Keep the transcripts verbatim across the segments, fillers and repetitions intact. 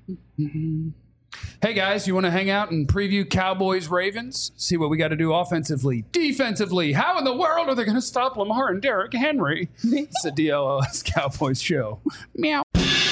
Hey guys, you want to hang out and preview Cowboys Ravens? See what we got to do offensively, defensively. How in the world are they going to stop Lamar and Derrick Henry? It's a D L L S Cowboys show. Meow.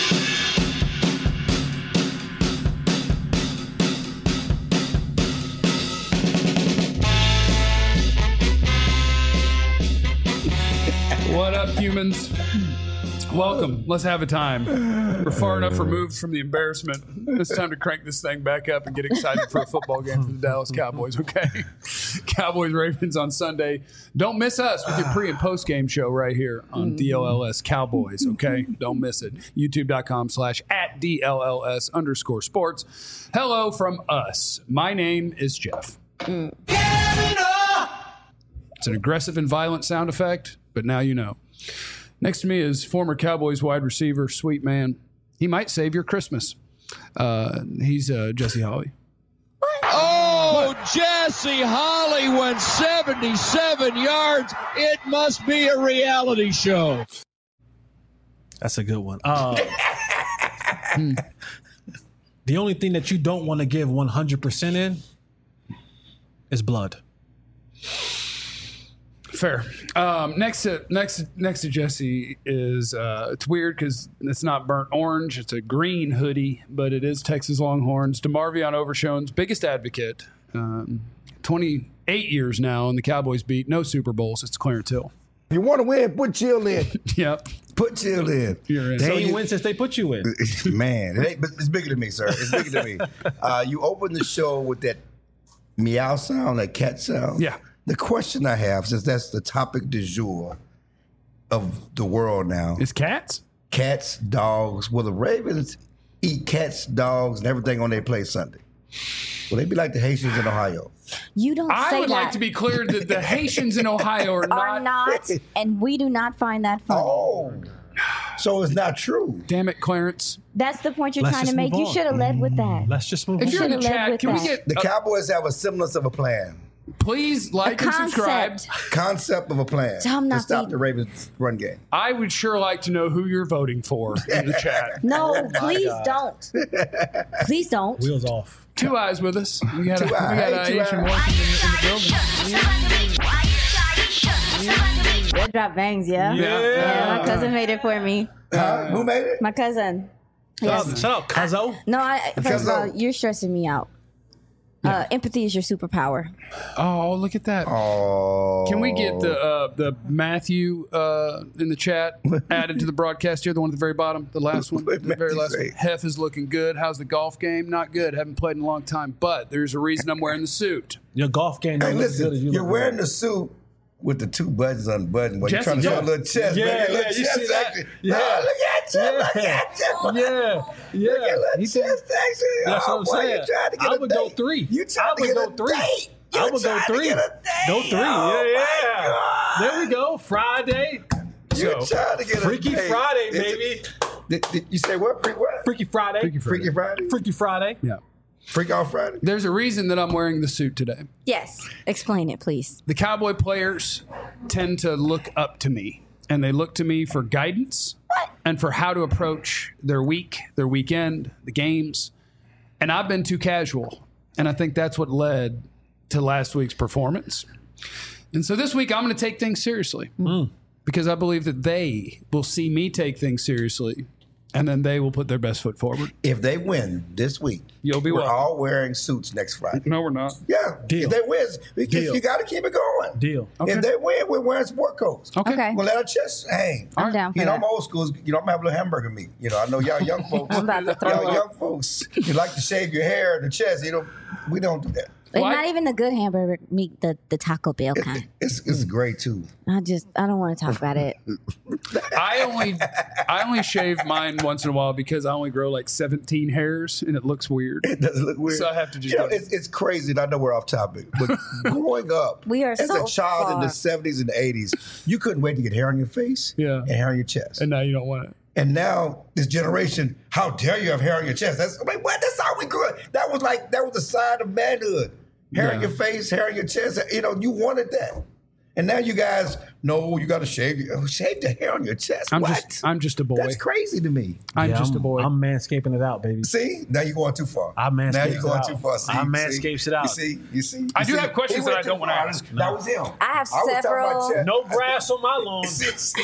What up, humans? Welcome. Let's have a time. We're far enough removed from the embarrassment. It's time to crank this thing back up and get excited for a football game for the Dallas Cowboys, okay? Cowboys Ravens on Sunday. Don't miss us with your pre and post game show right here on D L L S Cowboys, okay? Don't miss it. YouTube.com slash at D L L S underscore sports. Hello from us. My name is Jeff. Mm. It's an aggressive and violent sound effect, but now you know. Next to me is former Cowboys wide receiver, sweet man. He might save your Christmas. Uh, he's uh, Jesse Holley. Oh, what? Jesse Holley went seventy-seven yards. It must be a reality show. That's a good one. Uh, hmm. The only thing that you don't want to give one hundred percent in is blood. Fair. Um, next to next next to Jesse is uh, it's weird because it's not burnt orange; it's a green hoodie, but it is Texas Longhorns. DeMarvion Overshown's biggest advocate, um, twenty-eight years now on the Cowboys beat, no Super Bowls. It's Clarence Hill. If you want to win, put Chill in. Yep, put Chill in. You're in. So you win since they put you in. Man, it ain't, but it's bigger than me, sir. It's bigger than me. Uh, you open the show with that meow sound, that cat sound. Yeah. The question I have, since that's the topic du jour of the world now. Is cats? Cats, dogs. Will the Ravens eat cats, dogs, and everything on their plate Sunday? Will they be like the Haitians in Ohio? You don't I say would that. like to be clear that the Haitians in Ohio are not. Are not, and we do not find that funny. Oh. So it's not true. Damn it, Clarence. That's the point you're Let's trying to just make. move You on. should have led with that. Let's just move If on. you're in the Should've led chat, with can we that. get The uh, Cowboys have a semblance of a plan. please like A and subscribe. concept. Concept of a plan Tell 'em to not stop to- the Ravens run game. I would sure like to know who you're voting for in the chat. No, please don't. Please don't. Wheels off. Two eyes with us. We got, a, we Two got eyes, uh, two Asian eyes. Washington in the building. Red drop bangs, yeah? Yeah. Yeah, my cousin made it for me. Huh? Who made it? My cousin. Shout Yes. out, shout out Cuzzo. No, I, first of all, Cuzzo. you're stressing me out. Uh, empathy is your superpower. Oh, look at that. Oh. Can we get the uh, the Matthew uh, in the chat added to the broadcast here? The one at the very bottom, the last one, the What did very Matthew last say? one. Hef is looking good. How's the golf game? Not good. Haven't played in a long time, but there's a reason I'm wearing the suit. Your golf game Hey, don't look listen, good as you you're look wearing good. the suit with the two buttons unbuttoned. While you're Jesse, trying to show yeah. a little chest. Yeah, baby, a little yeah, you chest see that? action. Yeah. Oh, look at you. Look Yeah. at you. Yeah, yeah. Look at little He chest did- action. That's oh, what I'm boy, saying. You trying to get I a would date. go three. You trying I to would get go a three. date. I You would go trying to three. get a date. Go three. Oh, yeah, my yeah. God. There we go. Friday. You're So, trying to get Freaky a date. Friday, Is it- baby. Did, did you say what? Freak what? Freaky Friday. Freaky Friday. Freaky Friday? Freaky Friday. Yeah. Freak off Friday? There's a reason that I'm wearing the suit today. Yes. Explain it, please. The Cowboy players tend to look up to me, and they look to me for guidance and for how to approach their week, their weekend, the games. And I've been too casual, and I think that's what led to last week's performance. And so this week, I'm going to take things seriously Mm. because I believe that they will see me take things seriously, and then they will put their best foot forward. If they win this week, You'll be we're welcome. all wearing suits next Friday. No, we're not. Yeah. Deal. If they win, because Deal. you got to keep it going. Deal. Okay. If they win, we're wearing sport coats. Okay. Okay. We'll let our chest hang. I'm down for You know, that. I'm old school. You know, I'm gonna have a little hamburger meat. You know, I know y'all young folks. I'm about to throw y'all up. young folks, you like to shave your hair and the chest. You know, we don't do that. It's Well, I- not even the good hamburger meat, the, the Taco Bell kind. It's it's great too. I just, I don't want to talk about it. I only I only shave mine once in a while because I only grow like seventeen hairs and it looks weird. It doesn't look weird. So I have to just You know, go- it's, it's crazy. And I know we're off topic, but growing up, We are as so a child in far. the seventies and the eighties, you couldn't wait to get hair on your face, Yeah. and hair on your chest. And now you don't want it. And now this generation, how dare you have hair on your chest? That's I mean, what? That's how we grew up. That was like that was a sign of manhood. Hair on Yeah. your face, hair on your chest. You know, you wanted that. And now you guys know you got to shave your, shave the hair on your chest. I'm what? just I'm just a boy. That's crazy to me. I'm Yeah, just I'm, a boy. I'm manscaping it out, baby. See, now you're going too far. I manscapes Now you're going it out. too far. See, I see? manscapes it out. You see, you see. I You do see? have questions He that went I don't too wanna far. ask. That was him. I have was talking about several- chest. No grass on my lawn. See, see.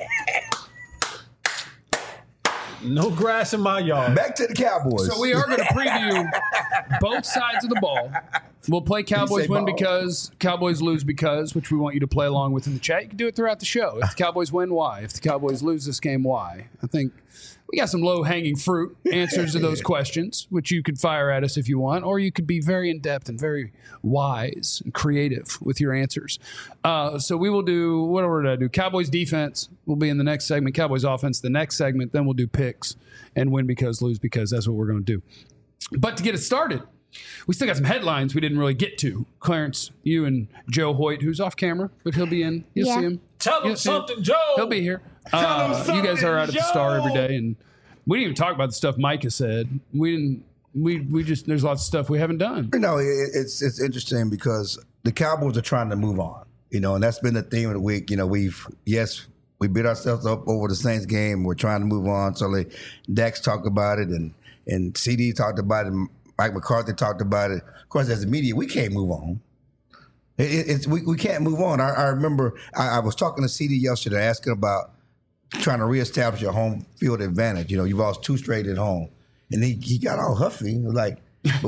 No grass in my yard. Back to the Cowboys. So we are going to preview both sides of the ball. We'll play Cowboys say win ball. because, Cowboys lose because, which we want you to play along with in the chat. You can do it throughout the show. If the Cowboys win, why? If the Cowboys lose this game, why? I think we got some low-hanging fruit answers to those questions, which you could fire at us if you want, or you could be very in-depth and very wise and creative with your answers. Uh, so we will do, what order did I do? Cowboys defense will be in the next segment. Cowboys offense the next segment. Then we'll do picks and win because, lose because. That's what we're going to do. But to get it started, we still got some headlines we didn't really get to. Clarence, you and Joe Hoyt, who's off camera, but he'll be in. You'll Yeah. see him. Tell him You'll see him. something, Joe. He'll be here. Tell him Uh, you guys something, are out at the Star every Joe. day, and we didn't even talk about the stuff Mike has said. We didn't. We we just there's lots of stuff we haven't done. You know, it, it's it's interesting because the Cowboys are trying to move on. You know, and that's been the theme of the week. You know, we've yes, we beat ourselves up over the Saints game. We're trying to move on. So like, Dax talked about it, and and C D talked about it. And Mike McCarthy talked about it. Of course, as the media, we can't move on. It, it, it's we, we can't move on. I, I remember I, I was talking to C D yesterday, asking about trying to reestablish your home field advantage. You know, you've lost two straight at home, and he he got all huffy. He was like,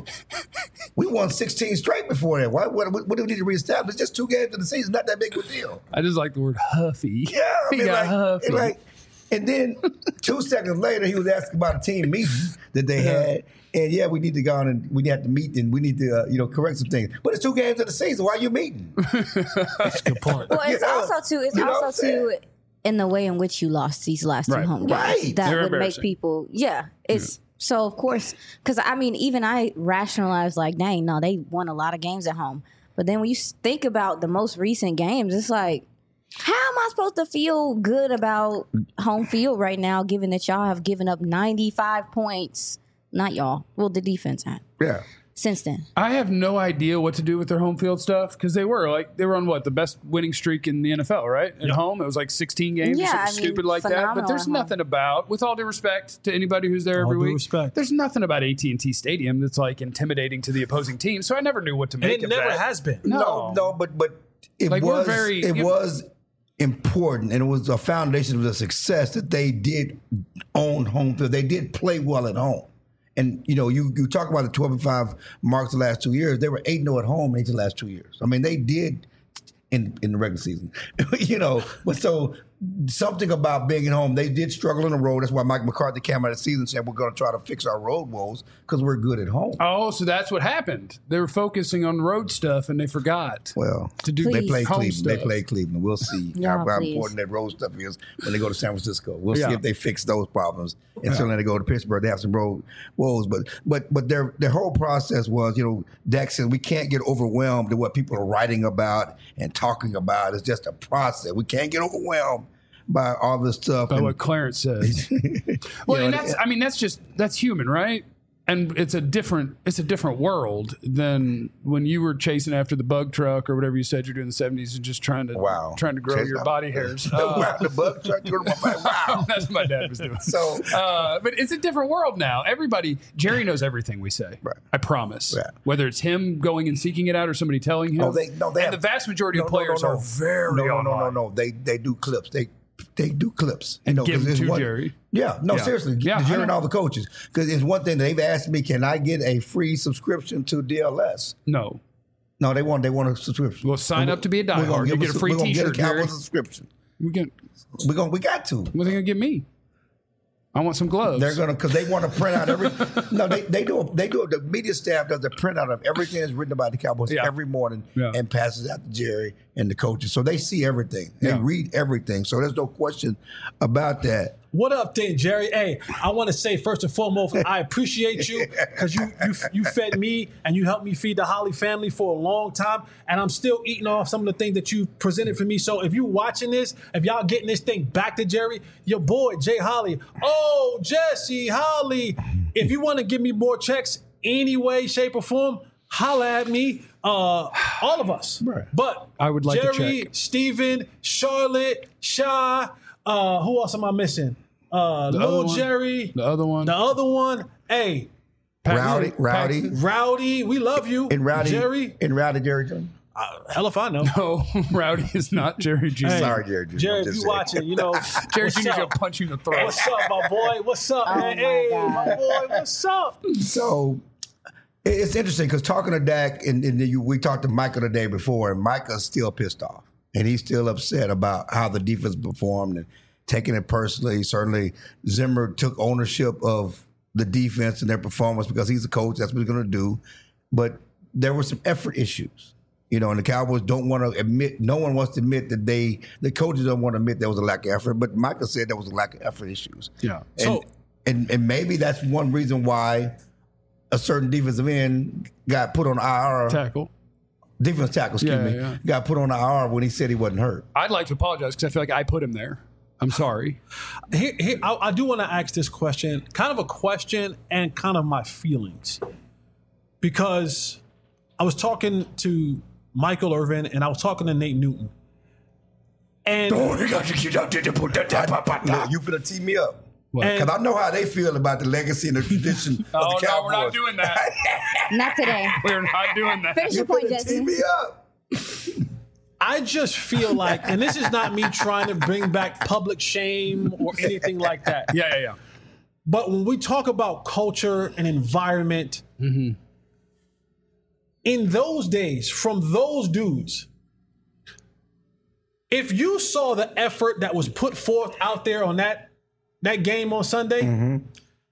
"We won sixteen straight before that. Why? What, what, what do we need to reestablish? Just two games in the season, not that big of a deal." I just like the word huffy. Yeah, I he mean, got like, huffy. and like, and then two seconds later, he was asking about a team meeting that they had. And yeah, we need to go on and we have to meet and we need to, uh, you know, correct some things. But it's two games in the season. Why are you meeting? That's a good point. Well, it's You know? also too. It's You know what I'm also too in the way in which you lost these last two Right. home games. Right. That They're would make embarrassing. people. Yeah, it's so of course because I mean even I rationalized like, dang, no, they won a lot of games at home. But then when you s- think about the most recent games, it's like, how am I supposed to feel good about home field right now, given that y'all have given up ninety-five points? Not y'all. Well, the defense had Yeah. since then. I have no idea what to do with their home field stuff because they were like they were on what the best winning streak in the N F L, right? At home, it was like sixteen games or Yeah, something I mean, stupid like that. But phenomenal there's at home. nothing about, with all due respect to anybody who's there All every due week, respect. there's nothing about A T and T Stadium that's like intimidating to the opposing team. So I never knew what to And make it of never that. has been. No. No, no, but but it Like, we're was very- it you- was important, and it was a foundation of the success that they did own home field. They did play well at home, and you know, you you talk about the twelve and five marks the last two years. They were eight and zero at home in each of the last two years. I mean, they did in in the regular season, you know. But so something about being at home, they did struggle on the road. That's why Mike McCarthy came out of the season and said we're going to try to fix our road woes because we're good at home. Oh, so that's what happened. They were focusing on road stuff and they forgot Well, to do they Please. play home Cleveland. They stuff. play Cleveland. We'll see Yeah, how, how please. important that road stuff is when they go to San Francisco. We'll Yeah. see if they fix those problems. And certainly they go to Pittsburgh. They have some road woes, but but but their their whole process was, you know, Dak said we can't get overwhelmed to what people are writing about and talking about. It's just a process. We can't get overwhelmed by all this stuff. by And- what Clarence says. Well, You and know, that's I mean that's just that's human, right? And it's a different it's a different world than when you were chasing after the bug truck or whatever you said you do in the seventies and just trying to Wow. trying to grow Chase your out- body hairs. the, Uh, the bug truck, you know, my- wow. that's what my dad was doing. So Uh, but it's a different world now. Everybody, Jerry knows everything we say. Right. I promise. Right. Whether it's him going and seeking it out or somebody telling him. Oh, they no, they and have, the vast majority no, of no, players no, no. are very no, no, no, no, online. no. They they do clips. They they do clips. You And know, give 'cause them it's to one- Jerry. Yeah, no, Yeah. seriously, Yeah, yeah, I Jerry and know. all the coaches, because it's one thing they've asked me: can I get a free subscription to D L S? No. No, they want they want a subscription. Well, sign up to be a We're gonna diehard. You give get a us- free we're gonna T-shirt, Get a Cowboys Jerry. subscription. We get. We going we got to. What are they gonna give me? I want some gloves. They're gonna because they want to print out every. no, they they do a, they do a, the media staff does a printout of everything that's written about the Cowboys Yeah. every morning Yeah. and passes out to Jerry and the coaches, so they see everything. They Yeah. read everything, so there's no question about that. What up, then, Jerry? Hey, I want to say first and foremost, I appreciate you because you you you fed me and you helped me feed the Holly family for a long time, and I'm still eating off some of the things that you presented for me. So if you watching this, if y'all getting this thing back to Jerry, your boy Jay Holly, oh Jesse Holly, if you want to give me more checks any way, shape, or form, holla at me. Uh, All of us. Right. But I would like to Jerry, check. Steven, Charlotte, Sha, uh, who else am I missing? Uh, The Lil other one? Jerry, The other one. the other one. Hey, Rowdy, Rowdy, Rowdy, we love you. and Rowdy, Jerry, and Rowdy Jerry Jones. uh, hell if I know. No, Rowdy is not Jerry Junior Hey, Sorry, Jerry Junior Jerry, I'm if just you saying. watching, you know, Jerry what's Junior's up? gonna punch you in the throat. What's up, my boy? What's up, Oh, man? my Hey, God. my boy, what's up? So it- it's interesting because talking to Dak, and, and you, we talked to Michael the day before, and Michael's still pissed off. And he's still upset about how the defense performed and taking it personally. Certainly, Zimmer took ownership of the defense and their performance because he's the coach. That's what he's going to do. But there were some effort issues. You know, and the Cowboys don't want to admit, no one wants to admit that they, the coaches don't want to admit there was a lack of effort. But Michael said there was a lack of effort issues. Yeah. And, So- and, and maybe that's one reason why a certain defensive end got put on I R. Tackle. Defense tackle, excuse Yeah, me, yeah. got put on I R when he said he wasn't hurt. I'd like to apologize because I feel like I put him there. I'm sorry. Here, here, I, I do want to ask this question, kind of a question and kind of my feelings. Because I was talking to Michael Irvin and I was talking to Nate Newton. And Oh, you got to get out there to put that down. You finna tee me up. What? Because I know how they feel about the legacy and the tradition of Oh the no, Cowboys. we're not doing that. Not today. We're not doing that. Finish You your point, finna tee Jesse. me up. I just feel like, and this is not me trying to bring back public shame or anything like that. Yeah, yeah, yeah. But when we talk about culture and environment, in those days, from those dudes, if you saw the effort that was put forth out there on that that game on Sunday,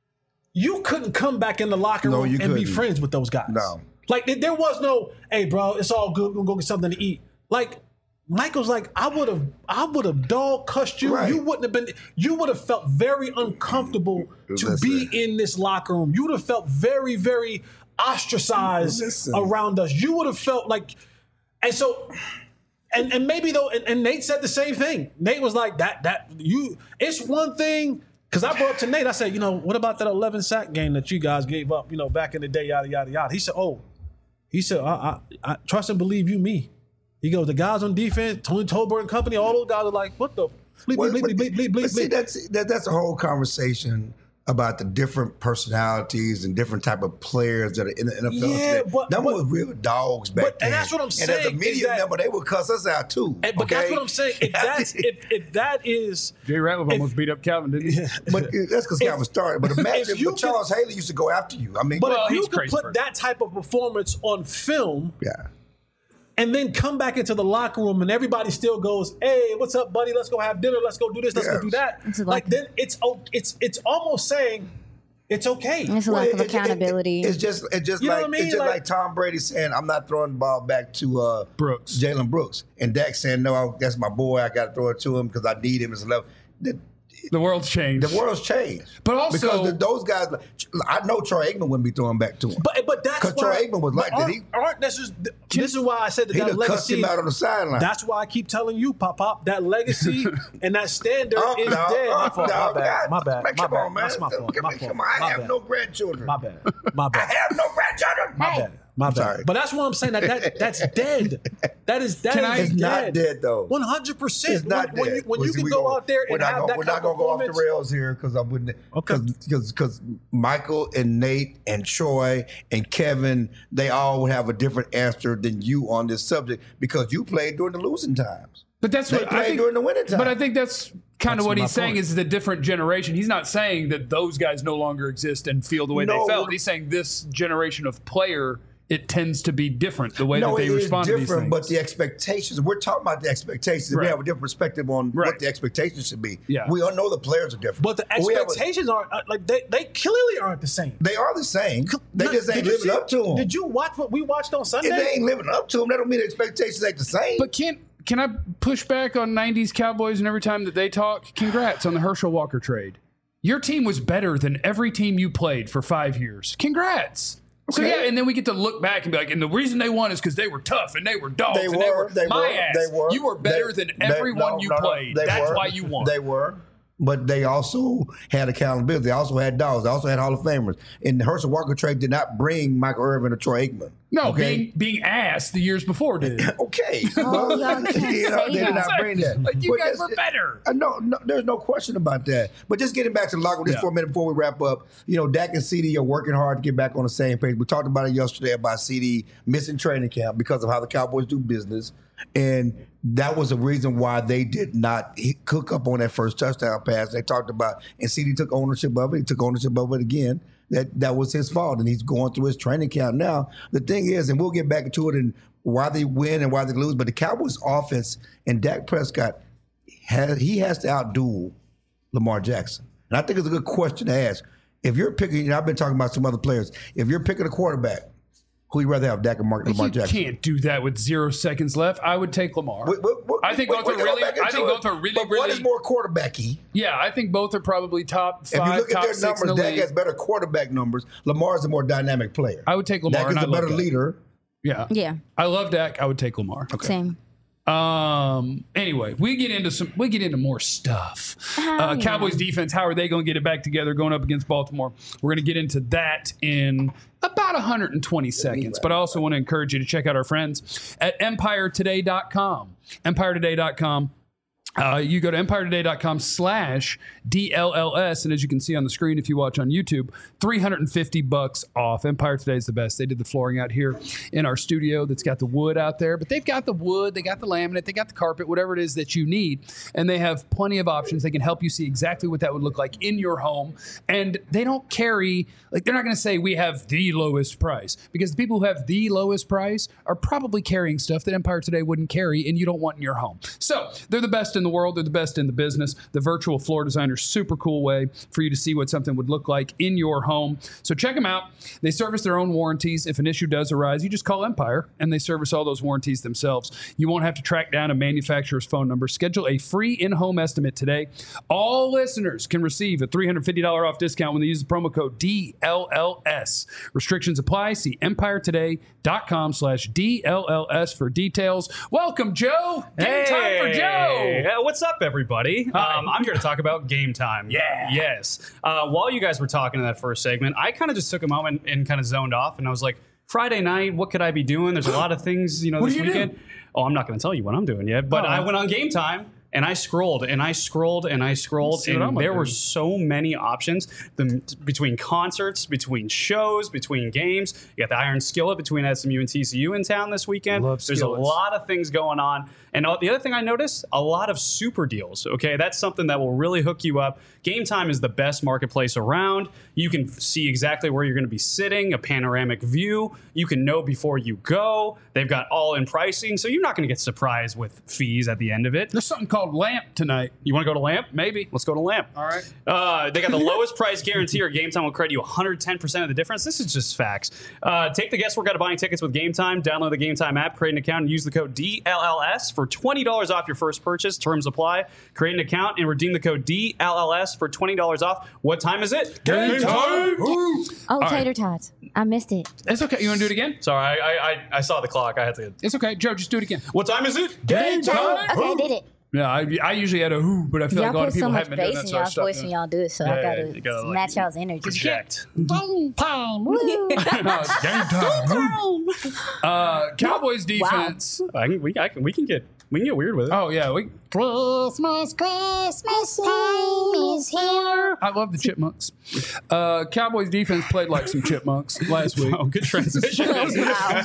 you couldn't come back in the locker No, room you and be couldn't. friends with those guys. No. Like there- there was no, hey bro, it's all good. We're gonna go get something to eat. Like Michael's like, I would have, I would have dog cussed you. Right. You wouldn't have been. You would have felt very uncomfortable to Listen. be in this locker room. You would have felt very, very ostracized Listen. around us. You would have felt like, and so, and and maybe though, and, and Nate said the same thing. Nate was like that. That you, it's one thing. Because I brought up to Nate, I said, you know, what about that eleven sack game that you guys gave up, you know, back in the day, yada yada yada. He said, oh, he said, I, I, I trust and believe you, me. He goes, the guys on defense, Tony Tolbert and company, all those guys are like, what the bleep, Well, bleep, but- bleep, bleep, bleep, but bleep, see, bleep. that's that, that's a whole conversation about the different personalities and different type of players that are in the N F L Yeah, today. but- Them but- was real dogs back but- then. and that's what I'm And saying, as a is media that- member, they would cuss us out too. And- but that's okay? what I'm saying. If that's if, if that is Jay Ratliff almost beat up Calvin, didn't he? But that's because Calvin started. But imagine if you but Charles Haley used to go after you. I mean, but Well, if you he's could crazy put person. that type of performance on film yeah. and then come back into the locker room and everybody still goes, hey, what's up, buddy? Let's go have dinner. Let's go do this. Let's go do that. It's Like like- then it's oh, it's it's almost saying it's okay. It's a Well, lack of it- it- accountability. it- it's just it's just You know like what I mean? it's just Like- like, Tom Brady saying, "I'm not throwing the ball back to uh, Brooks. Jalen Brooks," and Dak saying, "No, I, that's my boy. I got to throw it to him because I need him as a level." The, The world's changed. the world's changed, But also- because the, those guys, I know Troy Aikman wouldn't be throwing back to him. But but that's 'Cause why Troy Aikman was but like that. aren't- He- aren't- this is this is why I said that He'd that have cussed legacy. him out on the sideline. That's why I keep telling you, Pop Pop, that legacy and that standard Oh, is no, dead. oh, my fault. no, my bad. God, My bad. man, My come bad. on, man. That's my fault. Come My on, fault. come on. I My have bad. no grandchildren. My bad. My I bad. have no grandchildren. My bad. My I'm bad. sorry. But that's what I'm saying. That, that that's dead. That is that Can is I- It's not dead. dead though. One hundred percent. It's not when, when dead. you, when Well, you see, can we go gonna- out there we're and not have gonna, that we're kind not of gonna go off the performance. rails here because I wouldn't. Okay. Because because Michael and Nate and Troy and Kevin, they all would have a different answer than you on this subject because you played during the losing times. But that's They what I played think. during the winter time. But I think that's kind That's of what my he's saying point. is the different generation. He's not saying that those guys no longer exist and feel the way No, they felt. what- He's saying this generation of player, it tends to be different the way no, that they it is respond to these different, things. but the expectations. We're talking about the expectations. Right. We have a different perspective on Right. what the expectations should be. Yeah. We all know the players are different. But the we have a- expectations aren't uh, like they they clearly aren't the same. they are the same. They Now, just ain't did you living see- up to them. Did you watch what we watched on Sunday? If they ain't living up to them, that don't mean the expectations ain't the same. But can can I push back on nineties Cowboys and every time that they talk? Congrats on the Herschel Walker trade. Your team was better than every team you played for five years. Congrats. So Okay. yeah, and then we get to look back and be like, and the reason they won is because they were tough and they were dogs They and were. they were They my were. ass. They were. You were better They- than they- everyone no, you no, no, played. they That's were. why you won. They were. But they also had accountability. They also had dogs. They also had Hall of Famers. And the Herschel Walker trade did not bring Michael Irvin or Troy Aikman. No, Okay. being being asked the years before did. Okay. Oh, y'all can't You know, say they did that. not bring that. Like, you But guys that's- were better. Uh, no, no, there's no question about that. But just getting back to the locker room just Yeah. for a minute before we wrap up, you know, Dak and C D are working hard to get back on the same page. We talked about it yesterday about C D missing training camp because of how the Cowboys do business. And that was the reason why they did not hit- cook up on that first touchdown pass. They talked about, and C D took ownership of it. He took ownership of it again. That that was his fault, and he's going through his training camp now. The thing is, and we'll get back into it and why they win and why they lose, but the Cowboys offense and Dak Prescott, has, he has to outduel Lamar Jackson. And I think it's a good question to ask. If you're picking, and I've been talking about some other players, if you're picking a quarterback, who you rather have, Dak or Mark, Lamar You Jackson? can't do that with zero seconds left. I would take Lamar. We- we- we- I think we- both we are can go really. back I into think it, both are really, but really. one is more quarterbacky. Yeah, I think both are probably top If five, you look top at their six in numbers, the Dak league. has better quarterback numbers. Lamar is a more dynamic player. I would take Lamar. Dak and is I a love better Dak. leader. Yeah, Yeah, I love Dak. I would take Lamar. same. Um. Anyway, we get into some. We get into more stuff. Uh, yeah. Cowboys defense. How are they going to get it back together going up against Baltimore? We're going to get into that in about one hundred twenty seconds. But I also want to encourage you to check out our friends at empire today dot com. empire today dot com. Uh, you go to empire today dot com slash D L L S, and as you can see on the screen, if you watch on YouTube, three hundred fifty bucks off. Empire Today is the best. They did the flooring out here in our studio that's got the wood out there, but they've got the wood, they got the laminate, they got the carpet, whatever it is that you need, and they have plenty of options. They can help you see exactly what that would look like in your home, and they don't carry, like they're not going to say we have the lowest price, because the people who have the lowest price are probably carrying stuff that Empire Today wouldn't carry, and you don't want in your home. So they're the best in the world. They're the best in the business. The virtual floor designer, super cool way for you to see what something would look like in your home. So check them out. They service their own warranties. If an issue does arise, you just call Empire and they service all those warranties themselves. You won't have to track down a manufacturer's phone number. Schedule a free in-home estimate today. All listeners can receive a three hundred fifty dollars off discount when they use the promo code D L L S. Restrictions apply. See empire today dot com slash D L L S for details. Welcome, Joe. Game time for Joe. Hey, what's up, everybody? Um, I'm here to talk about game time. Yeah. Yes. Uh, while you guys were talking in that first segment, I kind of just took a moment and kind of zoned off, and I was like, Friday night, what could I be doing? There's a lot of things, you know, What this do you weekend. do? Oh, I'm not going to tell you what I'm doing yet, but Oh. I went on Game Time. And I scrolled and I scrolled and I scrolled, See what I'm and there doing. were so many options the, between concerts, between shows, between games. You got the Iron Skillet between S M U and T C U in town this weekend. Love There's skillets. a lot of things going on. And uh, the other thing I noticed, a lot of super deals. Okay, that's something that will really hook you up. Game Time is the best marketplace around. You can f- see exactly where you're going to be sitting, a panoramic view. You can know before you go. They've got all-in pricing, so you're not going to get surprised with fees at the end of it. There's something called Lamp tonight. You want to go to Lamp? Maybe. Let's go to Lamp. All right. Uh, they got the lowest price guarantee, or Game Time will credit you one hundred ten percent of the difference. This is just facts. Uh, take the guesswork out of buying tickets with Game Time. Download the Game Time app, create an account, and use the code D L L S for twenty dollars off your first purchase. Terms apply. Create an account and redeem the code D L L S for twenty dollars off. What time is it? Game time. Oh, tater tots. I missed it. It's okay. You want to do it again? Sorry, I, I I saw the clock. I had to. It's okay. Joe, just do it again. What time is it? Game time. Okay, I did it. Yeah, I, I usually had a who, but I feel Y'all like a lot put of so people much haven't been doing bass that, in so I y'all's stopped voice doing when it. y'all do it, so I Yeah, gotta you gotta, like, match y'all's energy. Project. Game time. Woo. No, it's game time. Uh, Cowboys defense. I can, we, I can, we can get we can get weird with it. Oh yeah, we. Christmas, Christmas time is here. I love the chipmunks. Uh, Cowboys defense played like some chipmunks last week. Oh, good transition. Wow.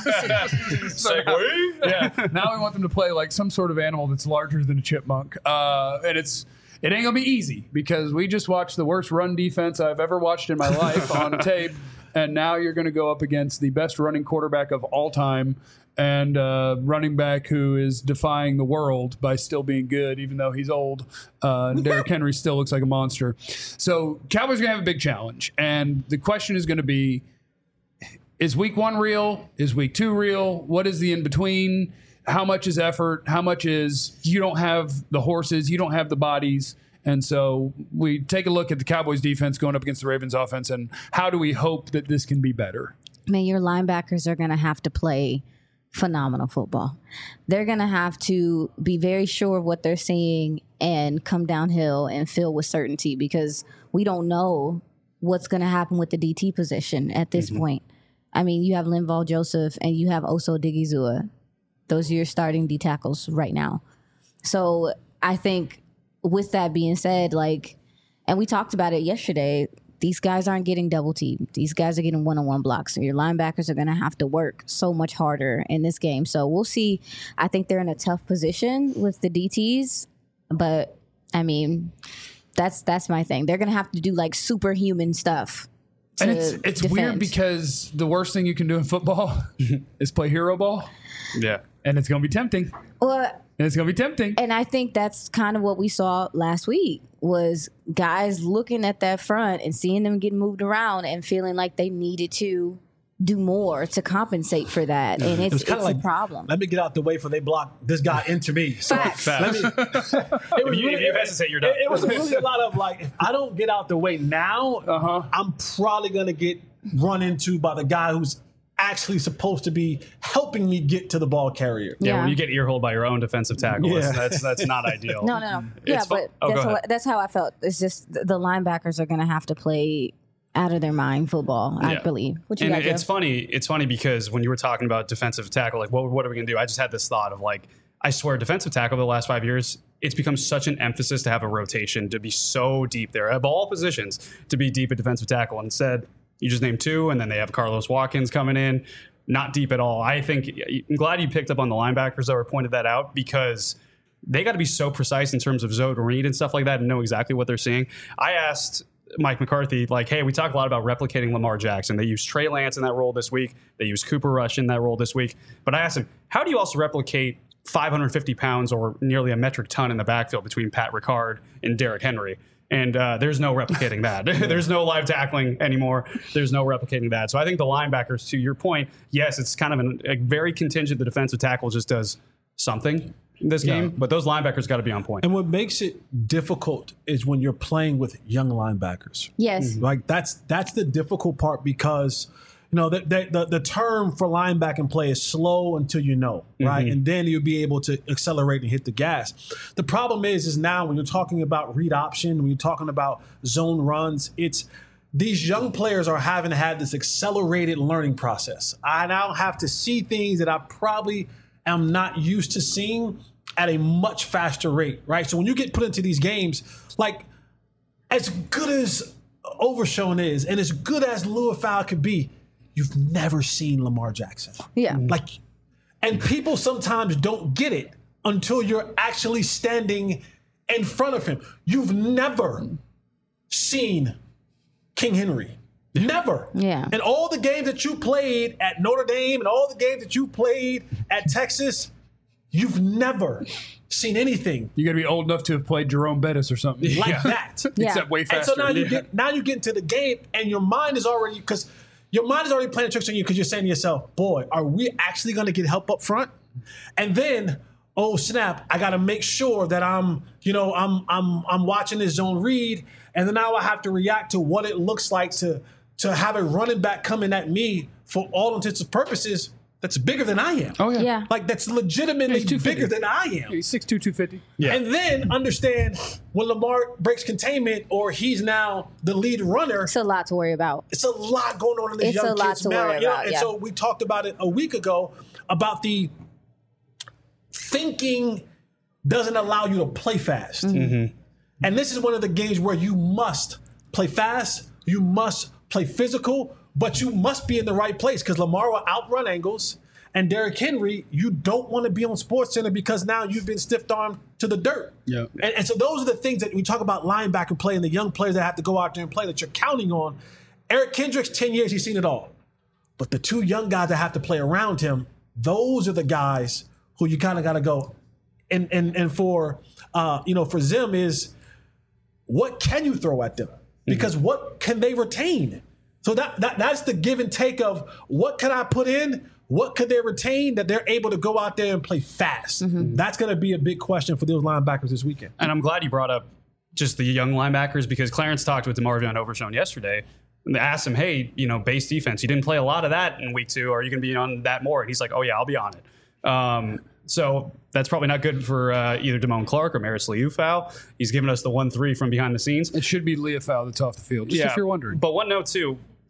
Segue. Yeah. Now we want them to play like some sort of animal that's larger than a chipmunk. Uh, and it's it ain't gonna be easy because we just watched the worst run defense I've ever watched in my life on tape, and now you're gonna go up against the best running quarterback of all time and uh, running back who is defying the world by still being good, even though he's old. Uh, and Derrick Henry still looks like a monster. So Cowboys are gonna have a big challenge, and the question is gonna be: is week one real? Is week two real? What is the in between? How much is effort? How much is you don't have the horses, you don't have the bodies? And so we take a look at the Cowboys defense going up against the Ravens offense, and how do we hope that this can be better? Man, your linebackers are going to have to play phenomenal football. They're going to have to be very sure of what they're seeing and come downhill and fill with certainty because we don't know what's going to happen with the D T position at this point. I mean, you have Linval Joseph and you have Oso Digizua. Those are your starting D tackles right now. So I think with that being said, like, and we talked about it yesterday, these guys aren't getting double teamed. These guys are getting one-on-one blocks. So your linebackers are going to have to work so much harder in this game. So we'll see. I think they're in a tough position with the D Ts, but I mean, that's that's my thing. They're going to have to do like superhuman stuff. And it's it's defend. weird because the worst thing you can do in football is play hero ball. Yeah. And it's going to be tempting. Well, And it's going to be tempting. and I think that's kind of what we saw last week was guys looking at that front and seeing them get moved around and feeling like they needed to do more to compensate for that. And it's, was it's kinda a like, problem. Let me get out the way for they block this guy into me. So Facts. let me. It was If you- if you hesitate, you're done. It, it was really a lot of like, if I don't get out the way now, Uh-huh. I'm probably gonna get run into by the guy who's actually supposed to be helping me get to the ball carrier. Yeah, Yeah. when you get earholed by your own defensive tackle, Yeah. that's, that's that's not ideal. No, no, no. Yeah, It's fu- but oh, go that's, ahead. how, that's how I felt. It's just the, the linebackers are going to have to play out of their mind football, I Yeah. believe. What you And got, it's Jeff? funny. It's funny because when you were talking about defensive tackle, like what what are we gonna do? I just had this thought of like, I swear, defensive tackle the last five years, it's become such an emphasis to have a rotation, to be so deep there of all positions, to be deep at defensive tackle. Instead, you just name two, and then they have Carlos Watkins coming in, not deep at all. I think I'm glad you picked up on the linebackers though, or pointed that out because they got to be so precise in terms of zone read and stuff like that, and know exactly what they're seeing. I asked Mike McCarthy, like, hey, we talk a lot about replicating Lamar Jackson. They use Trey Lance in that role this week. They use Cooper Rush in that role this week. But I asked him, how do you also replicate five hundred fifty pounds or nearly a metric ton in the backfield between Pat Ricard and Derrick Henry? And uh, there's no replicating that. There's no live tackling anymore. There's no replicating that. So I think the linebackers, to your point, yes, it's kind of an, a very contingent. The defensive tackle just does something in this game, but those linebackers got to be on point. And what makes it difficult is when you're playing with young linebackers. Yes. Like that's that's the difficult part because you know the the, the, the term for linebacking play is slow until you know, right? And then you'll be able to accelerate and hit the gas. The problem is is now when you're talking about read option, when you're talking about zone runs, it's these young players are having had this accelerated learning process. I now have to see things that I probably am not used to seeing at a much faster rate, right? So when you get put into these games, like as good as Overshown is and as good as Louisville could be, you've never seen Lamar Jackson. Yeah. Like, and people sometimes don't get it until you're actually standing in front of him. You've never seen King Henry. Never. Yeah. And all the games that you played at Notre Dame and all the games that you played at Texas, you've never seen anything You got to be old enough to have played Jerome Bettis or something. like that. Yeah. Except way And faster. so now you Yeah. get now you get into the game and your mind is already because your mind is already playing tricks on you because you're saying to yourself, boy, are we actually going to get help up front? And then, oh snap, I got to make sure that I'm, you know, I'm I'm I'm watching this zone read, and then now I have to react to what it looks like to to have a running back coming at me for all intents and purposes that's bigger than I am. Oh, yeah. Yeah. Like that's legitimately He's two fifty. bigger than I am. He's six two, two fifty. Yeah. And then understand when Lamar breaks containment or he's now the lead runner, It's a lot to worry about. it's a lot going on in this It's young a lot kid's to mind. worry You know, about, and yeah. so we talked about it a week ago about the thinking doesn't allow you to play fast. Mm-hmm. And this is one of the games where you must play fast, you must play physical, but you must be in the right place because Lamar will outrun angles. And Derrick Henry, you don't want to be on SportsCenter because now you've been stiff-armed to the dirt. Yeah. And, and so those are the things that we talk about linebacker play and the young players that have to go out there and play that you're counting on. Eric Kendricks, ten years, he's seen it all. But the two young guys that have to play around him, those are the guys who you kind of got to go. And and and for uh, you know, for Zim is what can you throw at them? Because mm-hmm. what can they retain? So that, that that's the give and take of what can I put in? What could they retain that they're able to go out there and play fast? Mm-hmm. That's going to be a big question for those linebackers this weekend. And I'm glad you brought up just the young linebackers because Clarence talked with DeMarvion Overshown yesterday and they asked him, hey, you know, base defense, you didn't play a lot of that in week two. Are you going to be on that more? And he's like, oh, yeah, I'll be on it. Um, so that's probably not good for uh, either Damone Clark or Maris Liufau. He's given us the one three from behind the scenes. It should be Leah Fowl that's off the field, just if you're wondering. But one note, too,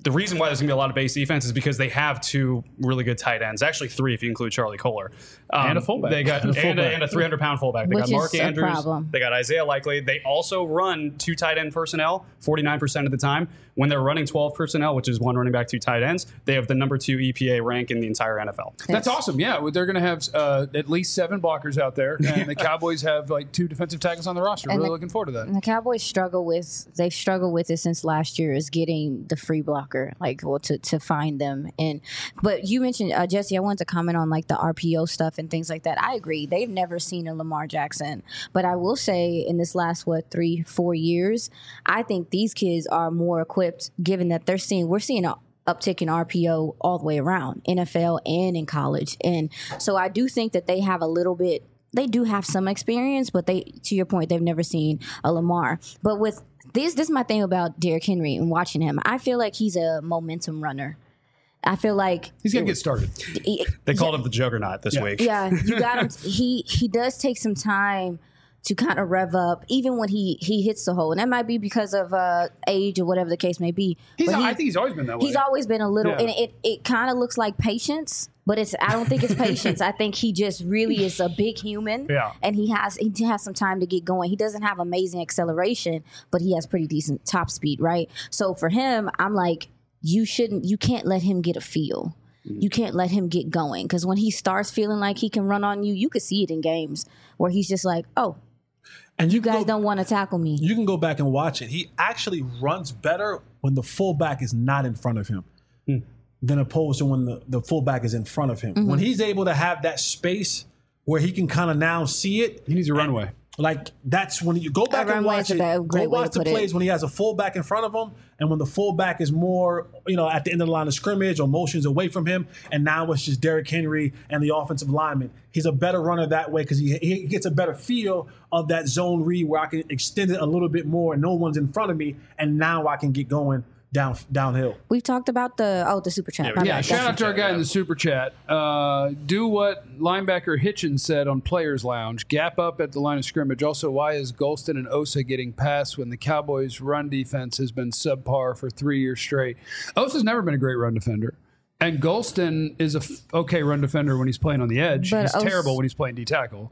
the reason why there's going to be a lot of base defense is because they have two really good tight ends. Actually, three if you include Charlie Kohler. Um, And a fullback. They got, and, and, a, and a three hundred pound fullback. They Which got Mark is a Andrews. problem. They got Isaiah Likely. They also run two tight end personnel forty-nine percent of the time. When they're running twelve personnel, which is one running back, two tight ends, they have the number two E P A rank in the entire N F L. That's awesome. Yeah, well, they're going to have uh, at least seven blockers out there, and the Cowboys have like two defensive tackles on the roster. And Really the- looking forward to that. And the Cowboys struggle with they've struggled with it since last year is getting the free blocker, like well to, to find them. And but you mentioned uh, Jesse, I wanted to comment on like the R P O stuff and things like that. I agree. They've never seen a Lamar Jackson, but I will say in this last what three four years, I think these kids are more equipped, given that they're seeing we're seeing a uptick in R P O all the way around, N F L and in college. And so I do think that they have a little bit, they do have some experience, but they, to your point, they've never seen a Lamar. But with this, this is my thing about Derrick Henry and watching him. I feel like he's a momentum runner. I feel like He's going to get started. he- They called him the Juggernaut this Yeah. week. yeah, you got him. He he does take some time to kind of rev up, even when he he hits the hole, and that might be because of uh, age or whatever the case may be. He's, But he- I think he's always been that way. He's always been a little, Yeah. and it, it kind of looks like patience, but it's I don't think it's patience. I think he just really is a big human, Yeah. and he has he has some time to get going. He doesn't have amazing acceleration, but he has pretty decent top speed, right? So for him, I'm like, you shouldn't, you can't let him get a feel. You can't let him get going because when he starts feeling like he can run on you, you could see it in games where he's just like, oh, And you you guys go, don't want to tackle me. You can go back and watch it. He actually runs better when the fullback is not in front of him than opposed to when the, the fullback is in front of him. When he's able to have that space where he can kind of now see it, He needs a runway. like that's when you go back That and runway watch is it. a Go great way watch to the put it. plays when he has a fullback in front of him, and when the fullback is more, you know, at the end of the line of scrimmage or motions away from him, and now it's just Derrick Henry and the offensive lineman. He's a better runner that way because he he gets a better feel of that zone read where I can extend it a little bit more and no one's in front of me, and now I can get going down downhill. We've talked about the oh the super chat. My Yeah, bad. shout That's- out to our guy in the super chat. Uh, do what linebacker Hitchens said on Players Lounge. Gap up at the line of scrimmage. Also, why is Golston and Osa getting passed when the Cowboys' run defense has been subpar for three years straight? Osa's never been a great run defender. And Golston is a f- okay run defender when he's playing on the edge. But he's Os- terrible when he's playing D tackle.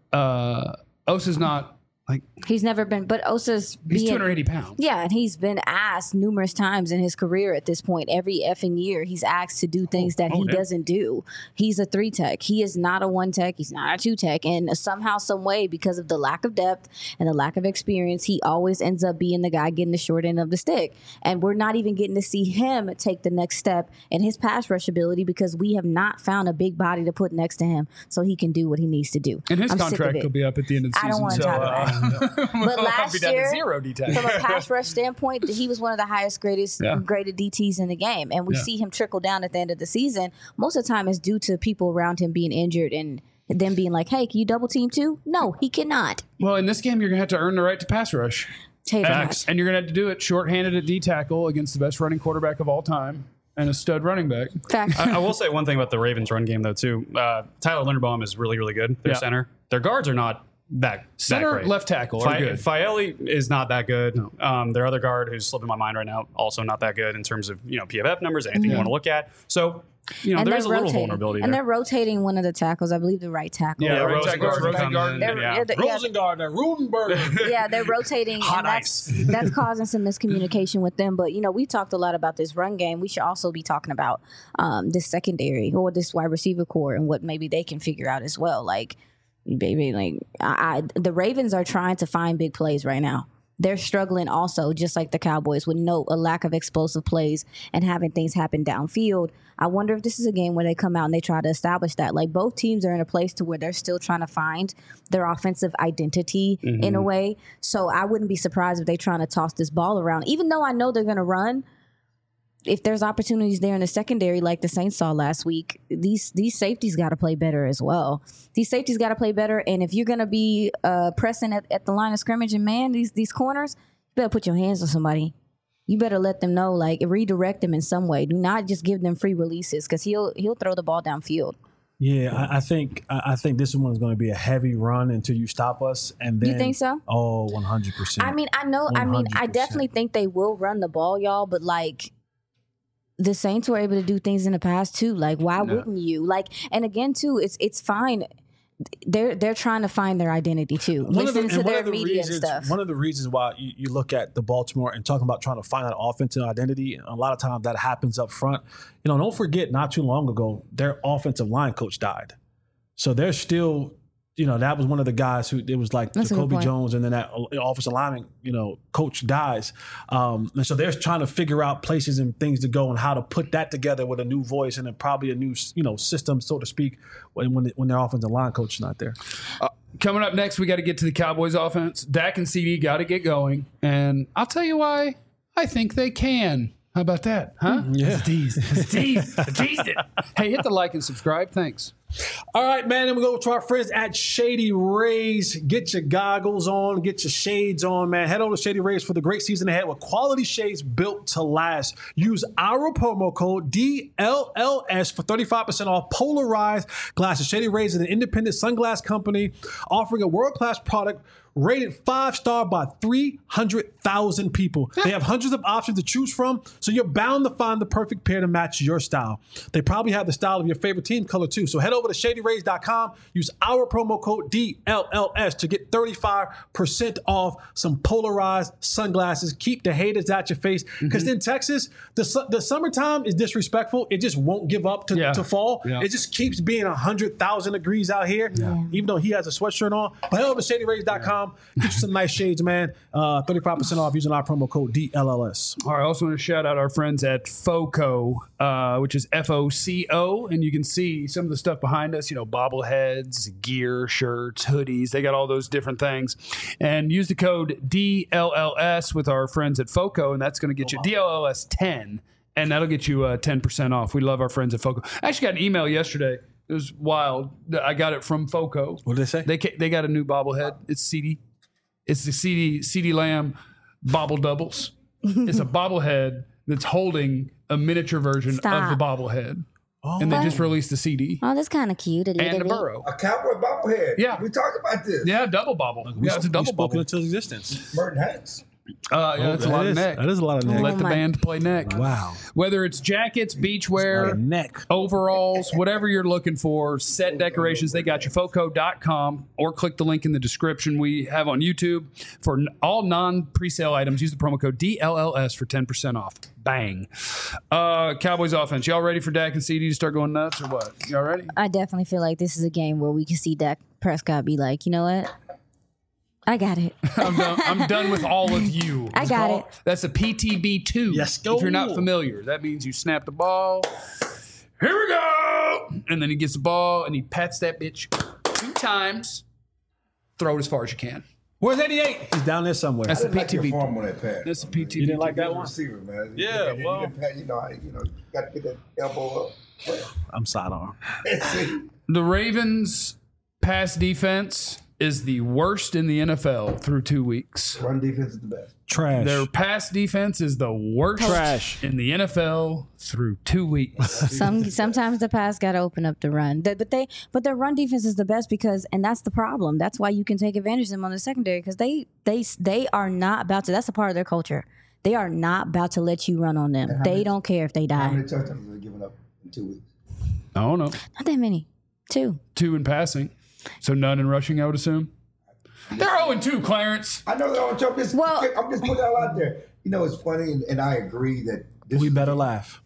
Uh, Osa's not like He's never been, but Osa's he's being, two hundred eighty pounds. Yeah, and he's been asked numerous times in his career at this point. Every effing year, he's asked to do things that oh, he yeah. doesn't do. He's a three tech. He is not a one tech. He's not a two tech. And somehow, some way, because of the lack of depth and the lack of experience, he always ends up being the guy getting the short end of the stick. And we're not even getting to see him take the next step in his pass rush ability because we have not found a big body to put next to him so he can do what he needs to do. And his I'm sick of contract it. will be up at the end of the I season. don't wanna so, talk about uh, But we'll last be down to year, zero D tackle. from a pass rush standpoint, he was one of the highest greatest Yeah. graded D Ts in the game. And we Yeah. see him trickle down at the end of the season. Most of the time it's due to people around him being injured and them being like, hey, can you double team too? No, he cannot. Well, in this game, you're going to have to earn the right to pass rush. Tell you And, that. and you're going to have to do it shorthanded at D tackle against the best running quarterback of all time and a stud running back. Fact. I, I will say one thing about the Ravens run game though too. Uh, Tyler Linderbaum is really really good. Their Yeah. center. Their guards are not that Center, that great. left tackle are Fi- good. Faeli is not that good. Um, their other guard, who's slipping my mind right now, also not that good in terms of you know P F F numbers, anything you want to look at. So you know and there's a they're little rotating. vulnerability And there. they're rotating one of the tackles, I believe the right tackle. Yeah, Yeah, right Rosen tackle, guard, right Rosen guard. They're- yeah. yeah, the- yeah, Rosengardner, Rudenberger. yeah, they're rotating, Hot and that's that's causing some miscommunication with them. But you know, we talked a lot about this run game. We should also be talking about um, this secondary or this wide receiver core and what maybe they can figure out as well. Like, baby, like I, I, the Ravens are trying to find big plays right now. They're struggling also, just like the Cowboys, with no a lack of explosive plays and having things happen downfield. I wonder if this is a game where they come out and they try to establish that. Like both teams are in a place to where they're still trying to find their offensive identity in a way. So I wouldn't be surprised if they're trying to toss this ball around, even though I know they're going to run. If there's opportunities there in the secondary, like the Saints saw last week, these these safeties got to play better as well. These safeties got to play better, and if you're going to be uh, pressing at, at the line of scrimmage and man these these corners, you better put your hands on somebody. You better let them know, like redirect them in some way. Do not just give them free releases because he'll he'll throw the ball downfield. Yeah, I, I think I I think this one is going to be a heavy run until you stop us, and then You think so? Oh, one hundred percent. I mean, I know. I mean, I one hundred percent. definitely think they will run the ball, y'all. But like, the Saints were able to do things in the past too. Like, why No. wouldn't you? Like, and again too, it's it's fine. They're they're trying to find their identity too. One of the- Listen and to one their of the media reasons, and stuff. One of the reasons why you, you look at the Baltimore and talking about trying to find that offensive identity, a lot of times that happens up front. You know, don't forget, not too long ago, their offensive line coach died. So they're still, you know, that was one of the guys who, it was like That's a good Jacoby point. Jones, and then that offensive lineman, you know, coach dies. Um, and so they're trying to figure out places and things to go and how to put that together with a new voice and then probably a new, you know, system, so to speak, when when, when their offensive line coach is not there. Coming up next, we got to get to the Cowboys offense. Dak and C D got to get going. And I'll tell you why I think they can. How about that? Huh? Yeah. It's a tease. It's a tease. I teased it. Hey, hit the like and subscribe. Thanks. All right, man. Then we go to our friends at Shady Rays. Get your goggles on, get your shades on, man. Head over to Shady Rays for the great season ahead with quality shades built to last. Use our promo code D L L S for thirty-five percent off polarized glasses. Shady Rays is an independent sunglass company offering a world-class product rated five-star by three hundred thousand people. They have hundreds of options to choose from, so you're bound to find the perfect pair to match your style. They probably have the style of your favorite team color, too. So head over to shady rays dot com. Use our promo code D L L S to get thirty-five percent off some polarized sunglasses. Keep the haters out your face. Because in Texas, the su- the summertime is disrespectful. It just won't give up to, Yeah. to fall. Yeah. It just keeps being one hundred thousand degrees out here, even though he has a sweatshirt on. But head over to shady rays dot com. Get you some nice shades, man. Uh, thirty-five percent off using our promo code D L L S. All right, I also want to shout out our friends at FOCO, uh, which is F O C O, and you can see some of the stuff behind us, you know, bobbleheads, gear, shirts, hoodies. They got all those different things. And use the code D L L S with our friends at FOCO, and that's going to get you D L L S ten, and that'll get you uh, ten percent off. We love our friends at FOCO. I actually got an email yesterday. It was wild. I got it from FOCO. What did they say? They ca- they got a new bobblehead. It's C D. It's the C D C D Lamb Bobble Doubles. It's a bobblehead that's holding a miniature version Stop. of the bobblehead. And they What? just released the C D Oh, that's kind of cute. A and little a bit. burrow. A cowboy bobblehead. Yeah. We talked about this. Yeah, double bobble. We, Yeah, it's a we double spoken bobble. into existence. Merton Hanks. Uh, yeah, that's a lot that of is, neck. That is a lot of neck. Let Oh the my- band play neck. Wow. Whether it's jackets, A lot beachwear, of neck. overalls, whatever you're looking for, set decorations, they got you. foco dot com or click the link in the description we have on YouTube. For n- all non-presale items, use the promo code D L L S for ten percent off. Bang. Uh, Cowboys offense. Y'all ready for Dak and C D to start going nuts or what? Y'all ready? I definitely feel like this is a game where we can see Dak Prescott be like, you know what? I got it. I'm done, I'm done with all of you. I It's got called- it. That's a P T B two. Yes, If you're not go. familiar, that means you snap the ball. Here we go. And then he gets the ball and he pats that bitch two times. Throw it as far as you can. Where's eighty-eight? He's down there somewhere. That's I a didn't like your P T B. form on that pass. That's a P T B. You didn't like that Good one? receiver, man. Yeah, you, well- you, you know, I, you know, you got to get that elbow up. I'm sidearm. The Ravens' pass defense is the worst in the N F L through two weeks. Run defense is the best. Trash. Their pass defense is the worst Trash. in the N F L through two weeks. Some sometimes the pass got to open up the run, Th- but they but their run defense is the best because, and that's the problem. That's why you can take advantage of them on the secondary because they they they are not about to. That's a part of their culture. They are not about to let you run on them. They many- don't care if they How die. many touchdowns have they given up in two weeks? I don't know. Not that many. Two. Two in passing. So none in rushing, I would assume. They're oh and two, Clarence. I know they're on top. Just, Well- I'm just putting that out there. You know, it's funny, and, and I agree that this We is- better laugh.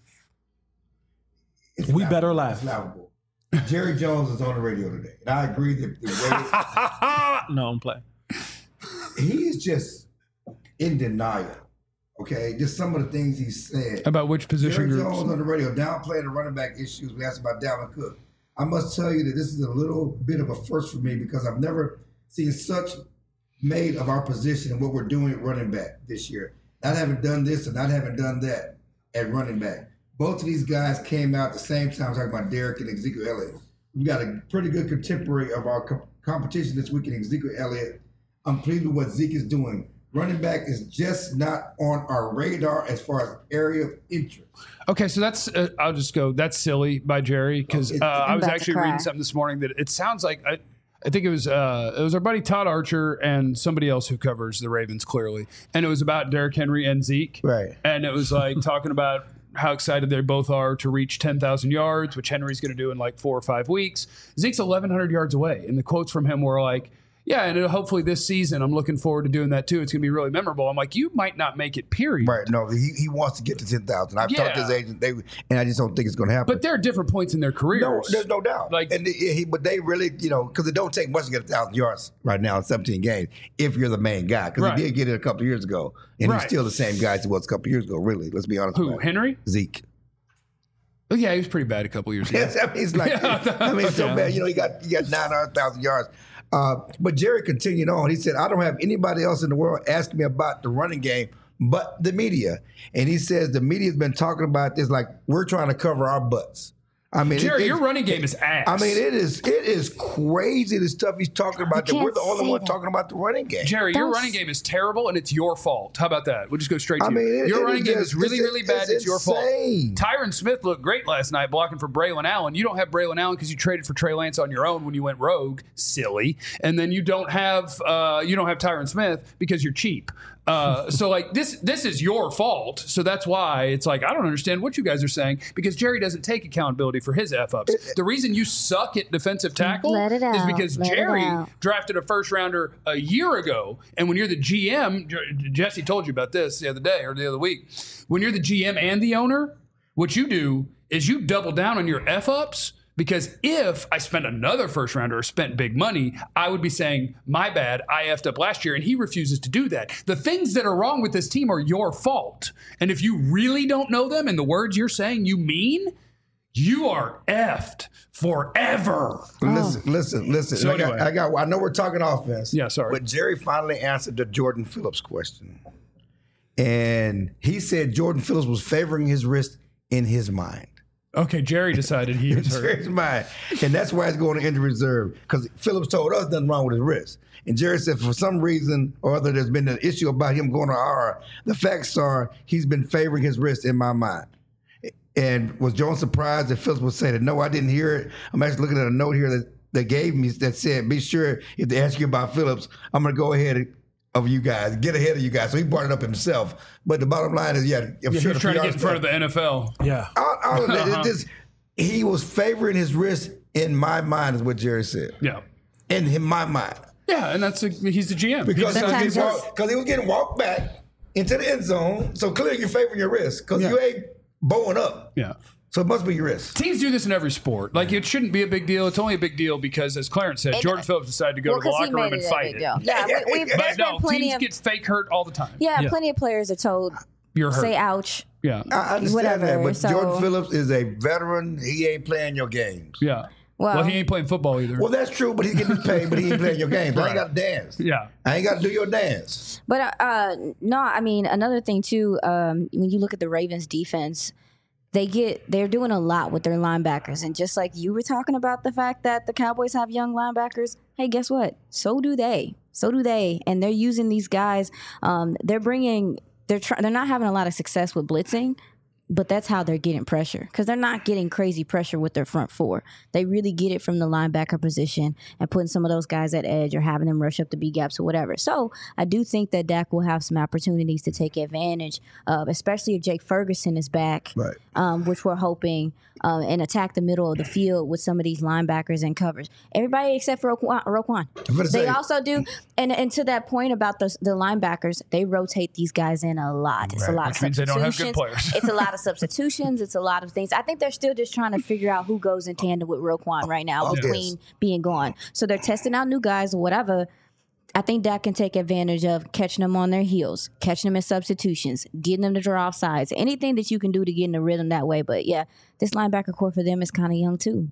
it's we laughable. better laugh. It's laughable. Jerry Jones is on the radio today, and I agree that the way No, I'm playing. he is just in denial. Okay, just some of the things he said. About which position Jerry groups? Jones on the radio downplaying the running back issues. We asked about Dalvin Cook. I must tell you that this is a little bit of a first for me because I've never seen such made of our position and what we're doing at running back this year. Not having done this and not having done that at running back. Both of these guys came out at the same time talking about Derek and Ezekiel Elliott. We've got a pretty good contemporary of our co- competition this week in Ezekiel Elliott. I'm pleased with what Zeke is doing. Running back is just not on our radar as far as area of interest. Okay, so that's, uh, I'll just go, that's silly by Jerry because uh, It's- I was about to actually cry. reading something this morning that it sounds like, I, I think it was uh, it was our buddy Todd Archer and somebody else who covers the Ravens clearly. And it was about Derrick Henry and Zeke. Right. And it was like talking about how excited they both are to reach ten thousand yards, which Henry's going to do in like four or five weeks. Zeke's eleven hundred yards away. And the quotes from him were like, yeah, and hopefully this season, I'm looking forward to doing that too. It's going to be really memorable. I'm like, you might not make it, period. Right. No, he, he wants to get to ten thousand. I've Yeah. talked to his agent, they, and I just don't think it's going to happen. But there are different points in their careers. No, there's no doubt. Like- and he, but they really, you know, because it don't take much to get a thousand yards right now in seventeen games if you're the main guy. Because Right. he did get it a couple of years ago, and Right. he's still the same guy as he was a couple of years ago. Really, let's be honest. Who, about it. Henry? Zeke. Oh, yeah, he was pretty bad a couple years ago. Yes, I mean, he's like, Yeah. I mean, it's so Yeah. bad. You know, he got he got nine hundred thousand yards. Uh, but Jerry continued on. He said, "I don't have anybody else in the world asking me about the running game, but the media." And he says the media's been talking about this like we're trying to cover our butts. I mean, Jerry, it- your it's- running game is ass. I mean, it is it is crazy the stuff he's talking about. That can't we're the only say one that. talking about the running game. Jerry, your Don't running s- game is terrible, and it's your fault. How about that? We'll just go straight to I you. mean, it- your it running is game just- is really, it's- really bad. It's, it's your fault. insane. Tyron Smith looked great last night blocking for Braylon Allen. You don't have Braylon Allen because you traded for Trey Lance on your own when you went rogue, silly. And then you don't have uh, you don't have Tyron Smith because you're cheap. Uh, so like this this is your fault. So that's why it's like I don't understand what you guys are saying because Jerry doesn't take accountability for his F ups. The reason you suck at defensive tackle Let it is out. because Let it Jerry out. drafted a first rounder a year ago, and when you're the G M, J- Jesse told you about this the other day or the other week. When you're the G M and the owner, what you do is you double down on your F ups. Because if I spent another first rounder or spent big money, I would be saying, my bad, I effed up last year. And he refuses to do that. The things that are wrong with this team are your fault. And if you really don't know them and the words you're saying you mean, you are effed forever. Listen, listen, listen. So I, got, anyway. I got. I know we're talking offense. Yeah, sorry. But Jerry finally answered the Jordan Phillips question, and he said Jordan Phillips was favoring his wrist in his mind. Okay, Jerry decided he was hurt. Jerry's mind, and that's why he's going to injury reserve because Phillips told us nothing wrong with his wrist, and Jerry said for some reason or other there's been an issue about him going to I R. The facts are he's been favoring his wrist in my mind. And was Jones surprised that Phillips would say that? No, I didn't hear it. I'm actually looking at a note here that they gave me that said, "Be sure if they ask you about Phillips, I'm going to go ahead of you guys, get ahead of you guys." So he brought it up himself. But the bottom line is, yeah, I'm Yeah, sure he's the trying to P R get in front of the N F L. Yeah. all, all of that, it just, he was favoring his wrist in my mind, is what Jerry said. Yeah. In, in my mind. Yeah, and that's a, he's the G M. He Because he, decides- was getting walked- 'cause he was getting walked back into the end zone. So clearly you're favoring your wrist because you ain't bowing up. yeah. So it must be your wrist. Teams do this in every sport. Like, it shouldn't be a big deal. It's only a big deal because, as Clarence said, It- Jordan Phillips decided to go Well, to the 'cause he locker room made and it a fight big it. deal. Yeah, we, we've, But there's no, been plenty teams of get fake hurt all the time. yeah, plenty of players are told You're hurt. say ouch. Yeah. I understand Whatever, that, but so- Jordan Phillips is a veteran. He ain't playing your games. Yeah. Well- well, he ain't playing football either. Well, that's true, but he's getting paid, but he ain't playing your games. I ain't got to dance. yeah. I ain't got to do your dance. But uh, no, I mean another thing too. Um, when you look at the Ravens defense, they get they're doing a lot with their linebackers, and just like you were talking about the fact that the Cowboys have young linebackers. Hey, guess what? So do they. So do they, and they're using these guys. Um, they're bringing. They're trying. They're not having a lot of success with blitzing. But that's how they're getting pressure because they're not getting crazy pressure with their front four. They really get it from the linebacker position and putting some of those guys at edge or having them rush up the B gaps or whatever. So I do think that Dak will have some opportunities to take advantage of, especially if Jake Ferguson is back, Right. um, which we're hoping, uh, and attack the middle of the field with some of these linebackers and covers. Everybody except for Roquan. Roquan. gonna They say- also do, and, and to that point about the, the linebackers, they rotate these guys in a lot. It's a Right. lot Which of means they don't have good substitutions. players. It's a lot of substitutions. It's a lot of things. I think they're still just trying to figure out who goes in tandem with Roquan right now Oh, between yes. being gone. So they're testing out new guys or whatever. I think Dak can take advantage of catching them on their heels, catching them in substitutions, getting them to draw off sides, anything that you can do to get in the rhythm that way. But yeah, this linebacker core for them is kind of young too.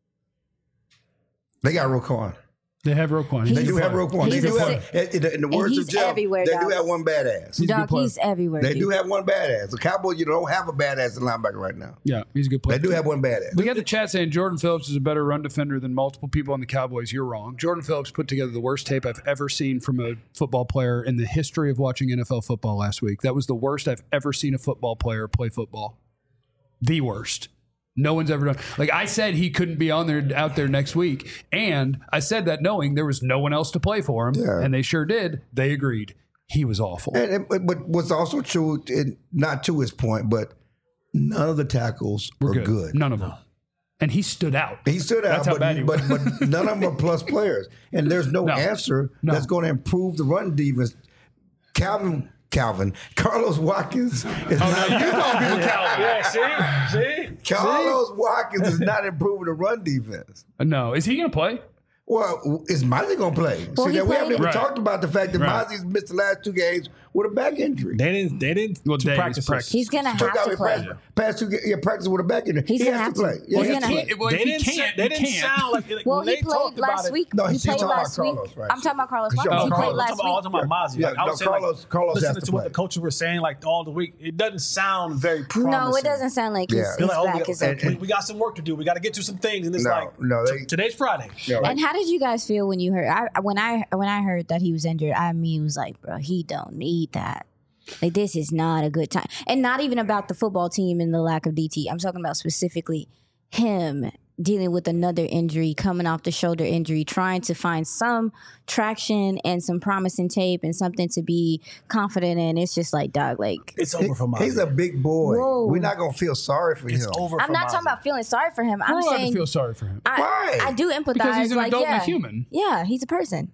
They got Roquan. They have Roquan. They He's- do have Roquan. They he's do a have, in the, in the words he's of Jeff, everywhere, they dog. do have one badass. He's a good Dog, player. he's everywhere. They dude. do have one badass. The Cowboys, you don't have a badass linebacker right now. Yeah, he's a good They player. do have one badass. We got the chat saying Jordan Phillips is a better run defender than multiple people on the Cowboys. You're wrong. Jordan Phillips put together the worst tape I've ever seen from a football player in the history of watching N F L football last week. That was the worst I've ever seen a football player play football. The worst. No one's ever done. Like I said, he couldn't be on there out there next week, and I said that knowing there was no one else to play for him, Yeah. and they sure did. They agreed. He was awful. And, and- but but what's also true, and not to his point, but None of the tackles were, We're good. good. None of them. And he stood out. He stood out, That's how but, bad he but, was. but none of them are plus players. And there's no, No. answer No. that's going to improve the run defense. Calvin, Calvin, Carlos Watkins is Oh, not. no, you call people Calvin. Yeah, see, see, Carlos Watkins is not improving the run defense. No. Is he going to play? Well, is Mozzie going to play? Well, See, he that we played- haven't even Right. talked about the fact that Right. Mozzie's missed the last two games with a back injury. They didn't. They didn't. Well, to days practice. practice. He's gonna Took have out to his play. past, past two ga- yeah, practice with a back injury. He's he gonna has have to to. play. Yeah, Well, he he's has to gonna- play. Well, They if he didn't. can't, They he didn't can't. sound like. Well, when he they talked played last about week. It, No, he he's played talking about last week. Carlos, right? I'm talking about Carlos Because Watkins. y'all- He No, played Carlos, last I'm talking, I'm week. talking about Mozzie. Yeah, Like, I no, was saying, like, Carlos- Carlos listening has to to what play. the coaches were saying, like all the week, it doesn't sound very promising. No, it doesn't sound like his, Yeah. his They're like, oh, back we, is got, okay. we, we got some work to do. We got to get to some things, and it's No, like, no, they- t- today's Friday. Yeah, right. And how did you guys feel when you heard? I, when I when I heard that he was injured, I mean, was like, bro, he don't need that. Like, this is not a good time, and not even about the football team and the lack of D T. I'm talking about specifically him dealing with another injury, coming off the shoulder injury, trying to find some traction and some promising tape and something to be confident in. It's just like, dog, like It's over for Mozzie. He's a big boy. Whoa. We're not gonna feel sorry for It's him. over. I'm for not Mozzie. talking about feeling sorry for him. We're I'm allowed to saying feel sorry for him. I, Why? I do empathize. Because he's an like, adult and a yeah, human. Yeah, he's a person.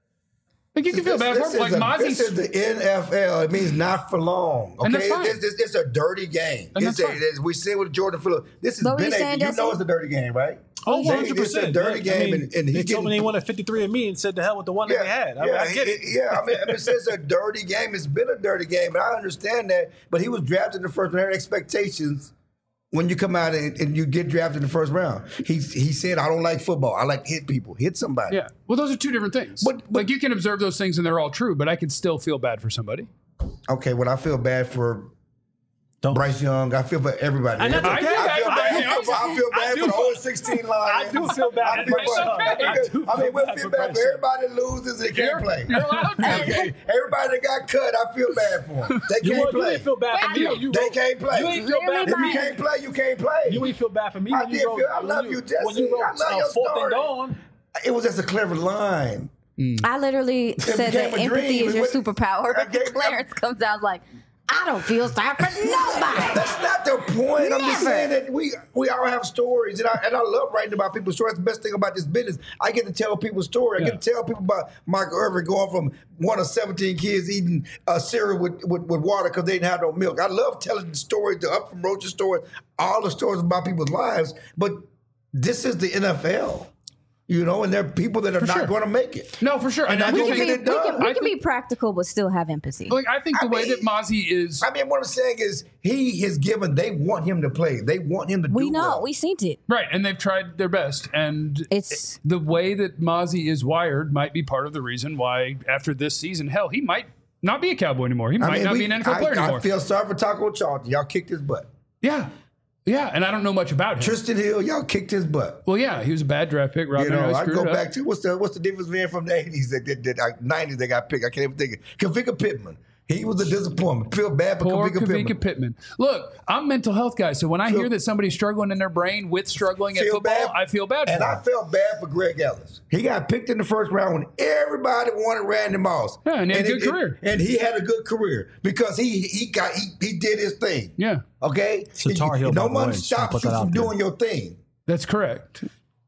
Like, you can feel bad for This him. is Like, a- This is Mozzie's. the N F L. It means not for long. Okay, And that's fine. It's, it's, it's a dirty game. And It's that's a, fine. it's, we see with Jordan Phillips. This has What were been you a. saying, You Jesse? know it's a dirty game, right? Oh, They- one hundred percent. It's a dirty I game, mean, and, and they he told me getting- they wanted fifty-three and me and said the hell with the one that they had. I mean, I get it. Yeah, I mean, I mean, it's it's a dirty game. It's been a dirty game, and I understand that. But he was drafted in the first round. There are expectations when you come out and, and you get drafted in the first round. He he said, "I don't like football. I like to hit people, hit somebody." Yeah. Well, those are two different things. But- but- like, you can observe those things and they're all true, but I can still feel bad for somebody. Okay, well, I feel bad for Don't. Bryce Young. I feel for everybody. And that's I, okay. I feel I- bad. I- for, I feel bad I do for the feel- whole sixteen line. I do feel bad I for feel Bryce bad- Young. I I do I mean, feel we'll bad feel for bad Bryce for Young. everybody that loses and can't play. You're allowed to. Okay, everybody that got cut, I feel bad for them. They You, can't want, you play. ain't feel bad for Wait, me. I You They wrote- can't play. You ain't feel Literally bad If for my- you me. can't play, you can't play. You ain't feel bad for me I when you did wrote. feel- I when love you, you, Jesse. When you wrote I love uh, your fourth story. and dawn. It was just a clever line. I literally said became that a empathy dream. is your It was- superpower. I gave- Clarence comes out like, I don't feel sorry for nobody. That's not the point. I'm just Never. saying that we we all have stories, and I and I love writing about people's stories. The best thing about this business, I get to tell people's story. I Yeah. get to tell people about Michael Irvin going from one of seventeen kids eating uh, cereal with, with, with water because they didn't have no milk. I love telling the stories, the Up from Roach's stories, all the stories about people's lives. But this is the N F L, you know, and there are people that are not sure. going to make it. No, for sure. And I I We don't think can, be, get we it can, done. we I can be think- practical, but still have empathy. Like, I think the I way mean- that Mozzie is. I mean, what I'm saying is he has given. They want him to play. They want him to we do know. well. We seen it. Right, and they've tried their best, and It's- the way that Mozzie is wired might be part of the reason why after this season, hell, he might not be a Cowboy anymore. He I might mean, not we- be an N F L I, player I anymore. feel sorry for Taco Charlton. Y'all kicked his butt. yeah, yeah, and I don't know much about him. Tristan Hill, y'all kicked his butt. Well, yeah, he was a bad draft pick. Rob You know, Manfred I screwed go it up. back to what's the what's the difference man from the eighties that, that, that uh, nineties that got picked. I can't even think of Kavika Pittman. He was a disappointment. Feel bad for Poor Kavika Kavika Pittman. Pittman. Look, I'm a mental health guy, so when I Feel- hear that somebody's struggling in their brain with struggling at Feel football, bad- I feel bad for And I him. felt bad for Greg Ellis. He got picked in the first round when everybody wanted Randy Moss. Yeah, and he had a good it- career. And he had a good career because he he got he, he did his thing. Yeah, Okay? So Tar Heel, no by the way, one just wanna stops put you that from out there. doing your thing. that's correct.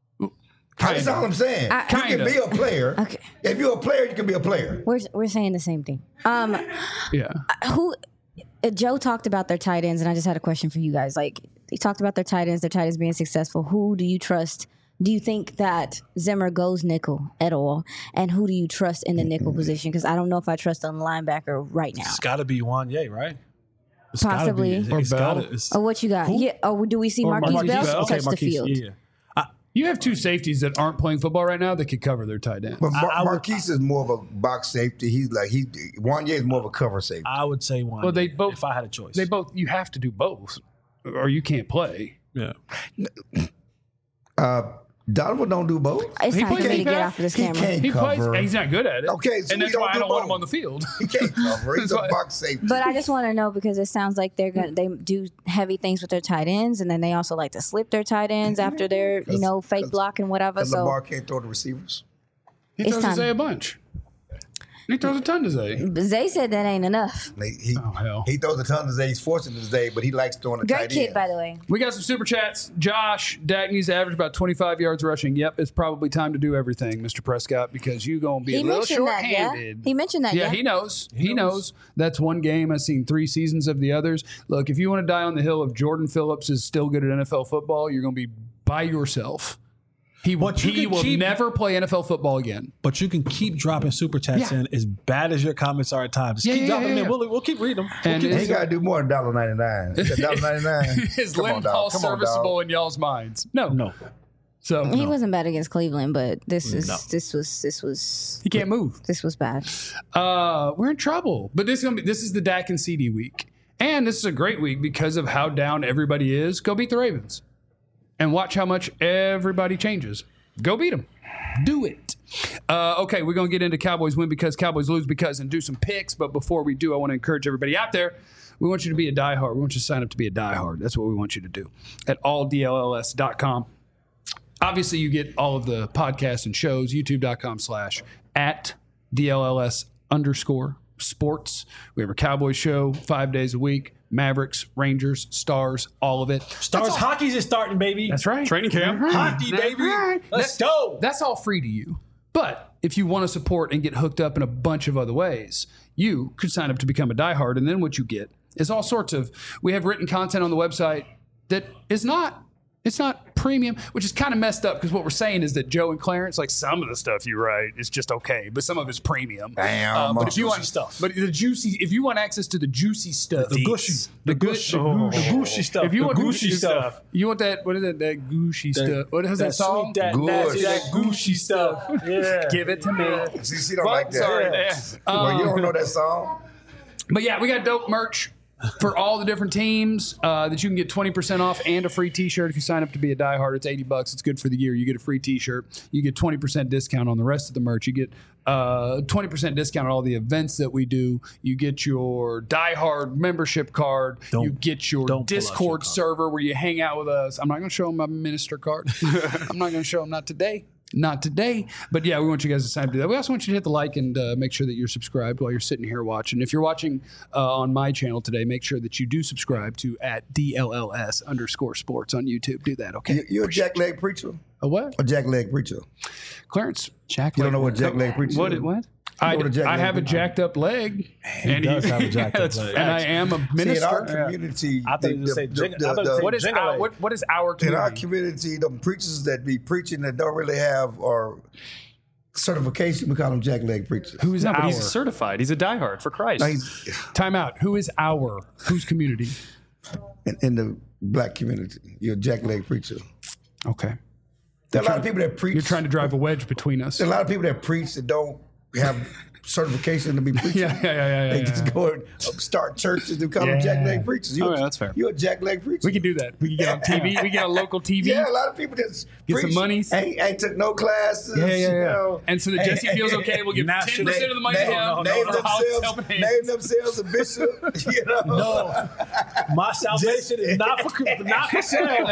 That's all I'm saying. I- you can Kinda. be a player. Okay. If you're a player, you can be a player. We're we're saying the same thing. Um, Yeah. who? uh, Joe talked about their tight ends, and I just had a question for you guys. Like, he talked about their tight ends, their tight ends being successful. Who do you trust? Do you think that Zimmer goes nickel at all? And who do you trust in the nickel position? Because I don't know if I trust on the linebacker right now. It's got to be Wanye, right? It's gotta Possibly. Be, Or it's Bell. gotta, it's, Oh, what you got? Who? Yeah. Oh, do we see Or Marquise, Marquise Bell Bell. touch okay, Marquise, the field? Yeah, yeah. I, You have two safeties that aren't playing football right now that could cover their tight end. But Mar- I would- Marquise is more of a box safety. He's like he Wanye is more of a cover safety. I would say Wanye. Well, they both- If I had a choice, They both. You have to do both, or you can't play. yeah. Uh, Donovan don't do both. It's He time for plays me to deep get half. off of this He camera. can't He plays. cover. He's not good at it. Okay, so and we that's don't why I do don't want both. him on the field. He can't cover. He's That's a why- box safety. But I just want to know because it sounds like they're gonna they do heavy things with their tight ends, and then they also like to slip their tight ends after their you 'Cause- know fake 'cause- block and whatever. Because So Lamar can't throw the receivers. He It's throws time. Isaiah a bunch. He throws a ton to Zay. But Zay said that ain't enough. He, he, Oh, hell. he throws a ton to Zay. He's forcing to Zay, but he likes throwing a Great tight kid, end. by the way. We got some super chats. Josh, Dak needs to average about twenty-five yards rushing. Yep, it's probably time to do everything, Mister Prescott, because you're going to be He a little mentioned that, yeah. short-handed. He mentioned that, Yeah, yeah. he knows. He, knows. That's one game. I've seen three seasons of the others. Look, if you want to die on the hill of Jordan Phillips is still good at N F L football, you're going to be by yourself. He, But you he can will keep- never play N F L football again. But you can keep dropping super chats Yeah. in as bad as your comments are at times. Just Yeah, keep yeah, dropping yeah, them yeah. in. We'll, we'll keep reading them. And we'll He it's- got to do more than one dollar ninety-nine. one dollar ninety-nine. Is Come on, Lynn dog. Hall Come on, serviceable dog. in y'all's minds? No. keep, no. So He wasn't bad against Cleveland, but this is No. this was this was he can't move. this was bad. Uh, we're in trouble. But this is gonna be this is the Dak and C D week, and this is a great week because of how down everybody is. Go beat the Ravens, and watch how much everybody changes. Go beat them. Do it. Uh, okay, we're gonna get into Cowboys win because Cowboys lose because and do some picks. But before we do, I want to encourage everybody out there. We want you to be a diehard. We want you to sign up to be a diehard. That's what we want you to do at all D L L S dot com. Obviously, you get all of the podcasts and shows, youtube.com slash at DLLS underscore sports. We have a Cowboys show five days a week. Mavericks, Rangers, Stars, all of it. Stars hockey's is starting, baby. That's right. Training camp. That's right. Hockey, That's baby. right. Let's That- go. That's all free to you. But if you want to support and get hooked up in a bunch of other ways, you could sign up to become a diehard. And then what you get is all sorts of, we have written content on the website that is not, it's not premium, which is kind of messed up because what we're saying is that Joe and Clarence, like some of the stuff you write is just okay, but some of it's premium. Damn. Uh, but if you Juicy want stuff. but the juicy, if you want access to the juicy stuff, The gushy. the The gushy, gushy. The gushy stuff. if you The want gushy if- stuff. you want that, what is it, that gushy stuff? What is that, That song? sweet, that Good. nasty, that gushy stuff. Yeah. Give it to me. See, she don't Well, like that. sorry. Yeah. Well, you Um, don't know that song? But yeah, we got dope merch for all the different teams uh, that you can get twenty percent off and a free t-shirt if you sign up to be a diehard. It's eighty bucks. It's good for the year. You get a free t-shirt. You get twenty percent discount on the rest of the merch. You get uh, twenty percent discount on all the events that we do. You get your diehard membership card. Don't- you get your don't pull out your Discord card. server where you hang out with us. I'm not going to show them my minister card. I'm not going to show them, not today. Not today, but yeah, we want you guys to sign up to do that. We also want you to hit the like and uh, make sure that you're subscribed while you're sitting here watching. If you're watching uh, on my channel today, make sure that you do subscribe to at D L L S underscore sports on YouTube. Do that, okay? You, you a jackleg preacher? A what? A jackleg preacher? Clarence? Jack. You don't know what jackleg preacher What? is? What? I, know what a jack I leg have a is? jacked up leg, He does have a jacked up leg. and I am a See, in minister. our community, I thought you were gonna say jing- I thought you were what is Jingle our, leg. what, what is our in our community? community, the preachers that be preaching that don't really have or certification, we call them jackleg preachers. Who is No, but our? he's certified. He's a diehard for Christ. Now, he's Time out. Who is our? Whose community? in, in the black community, you're a jackleg preacher. Okay. There are a lot of people that preach. You're trying to drive a wedge between us. There are a lot of people that preach that don't have certification to be preaching. Yeah, yeah, yeah, yeah. They yeah. just go and start churches and call them Yeah. jackleg preachers. You're, Oh, yeah, that's fair. You're a jackleg preacher. We can do that. We can get on T V. We get on local T V. Yeah, a lot of people just Get some preach, monies. Ain't, ain't took no classes. Yeah, yeah, you yeah. know. And so that Jesse feels okay, we'll give Nah, ten percent of the money to name, him. name, for how it's themselves, helping name hands. themselves a bishop. You know. No, my salvation is not for not for sale.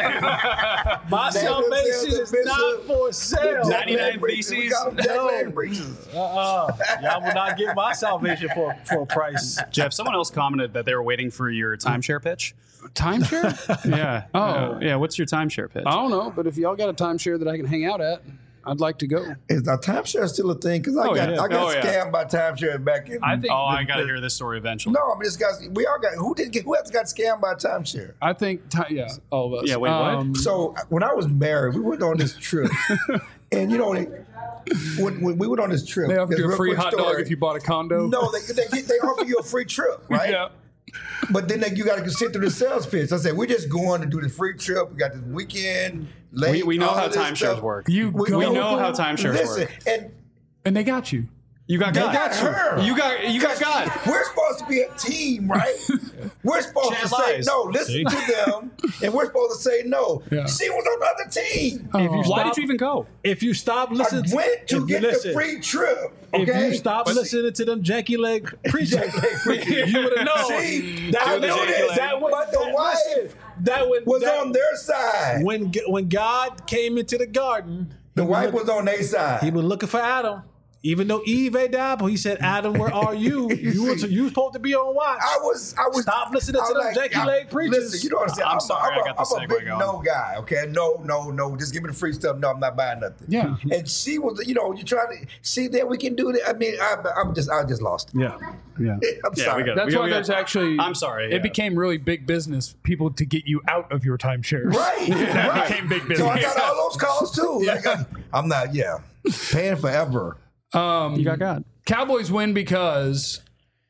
My salvation is not for sale. ninety-nine preachers. We theses. call them jackleg preachers. Uh-uh. Y'all will not get my salvation for, for a price. Jeff, someone else commented that they were waiting for your timeshare pitch. Timeshare? Yeah. Oh. Uh, yeah. What's your timeshare pitch? I don't know, but if y'all got a timeshare that I can hang out at, I'd like to go. Is now timeshare still a thing? Because I Oh, got yeah. I got Oh, yeah. scammed by timeshare back in. I think. Oh, I got to hear this story eventually. no, I mean this guy's. We all got. Who did get? Who else got scammed by timeshare? I think. Ti- yeah, all of us. Yeah, wait, what? Um, So when I was married, we went on this trip, and you know, when, when we went on this trip, They offered this you a real free quick hot story. dog if you bought a condo. No, they they, get, they offer you a free trip, right? Yeah. But then they, you got to sit through the sales pitch. I said, we're just going to do the free trip. We got this weekend. Late, We, we know all how of this timeshares stuff. work. You We, go- we know how timeshares listen, work. and and they got you. You got they God. got her. You got you got God. We're supposed to be a team, right? We're supposed Chad to say lies. no, listen See? to them, and we're supposed to say no. Yeah. She was on the other team. If you Why stop, did you even go? If you stop I listening, went to if you get listen, the free trip. If Okay? you stop But- listening to them janky leg preachers, you would have known. See, that I was- knew this, that was- but the that- wife listen, that when, was that, on their side. when when God came into the garden. The he wife look- was on their side. He was looking for Adam. even though Eve died, he said, Adam, where are you? You were, you were supposed to be on watch. I was, I was. Stop listening I to was them like, janky leg preachers. Listen, you know what I'm saying? I'm I'm, sorry, I'm, I got the I'm a segue big going. no guy. Okay, no, no, no. Just give me the free stuff. No, I'm not buying nothing. Yeah. And she was, you know, you trying to see that we can do that. I mean, I, I'm just, I just lost it. Yeah. Yeah. I'm Yeah, sorry. we got it. That's We- why we there's got- actually. I'm sorry, It yeah. became really big business. People to get you out of your timeshares. Right. That right. became big So I business. got all those calls too. Like, I'm, I'm not. Yeah. Paying forever. Um, You got God. Cowboys win because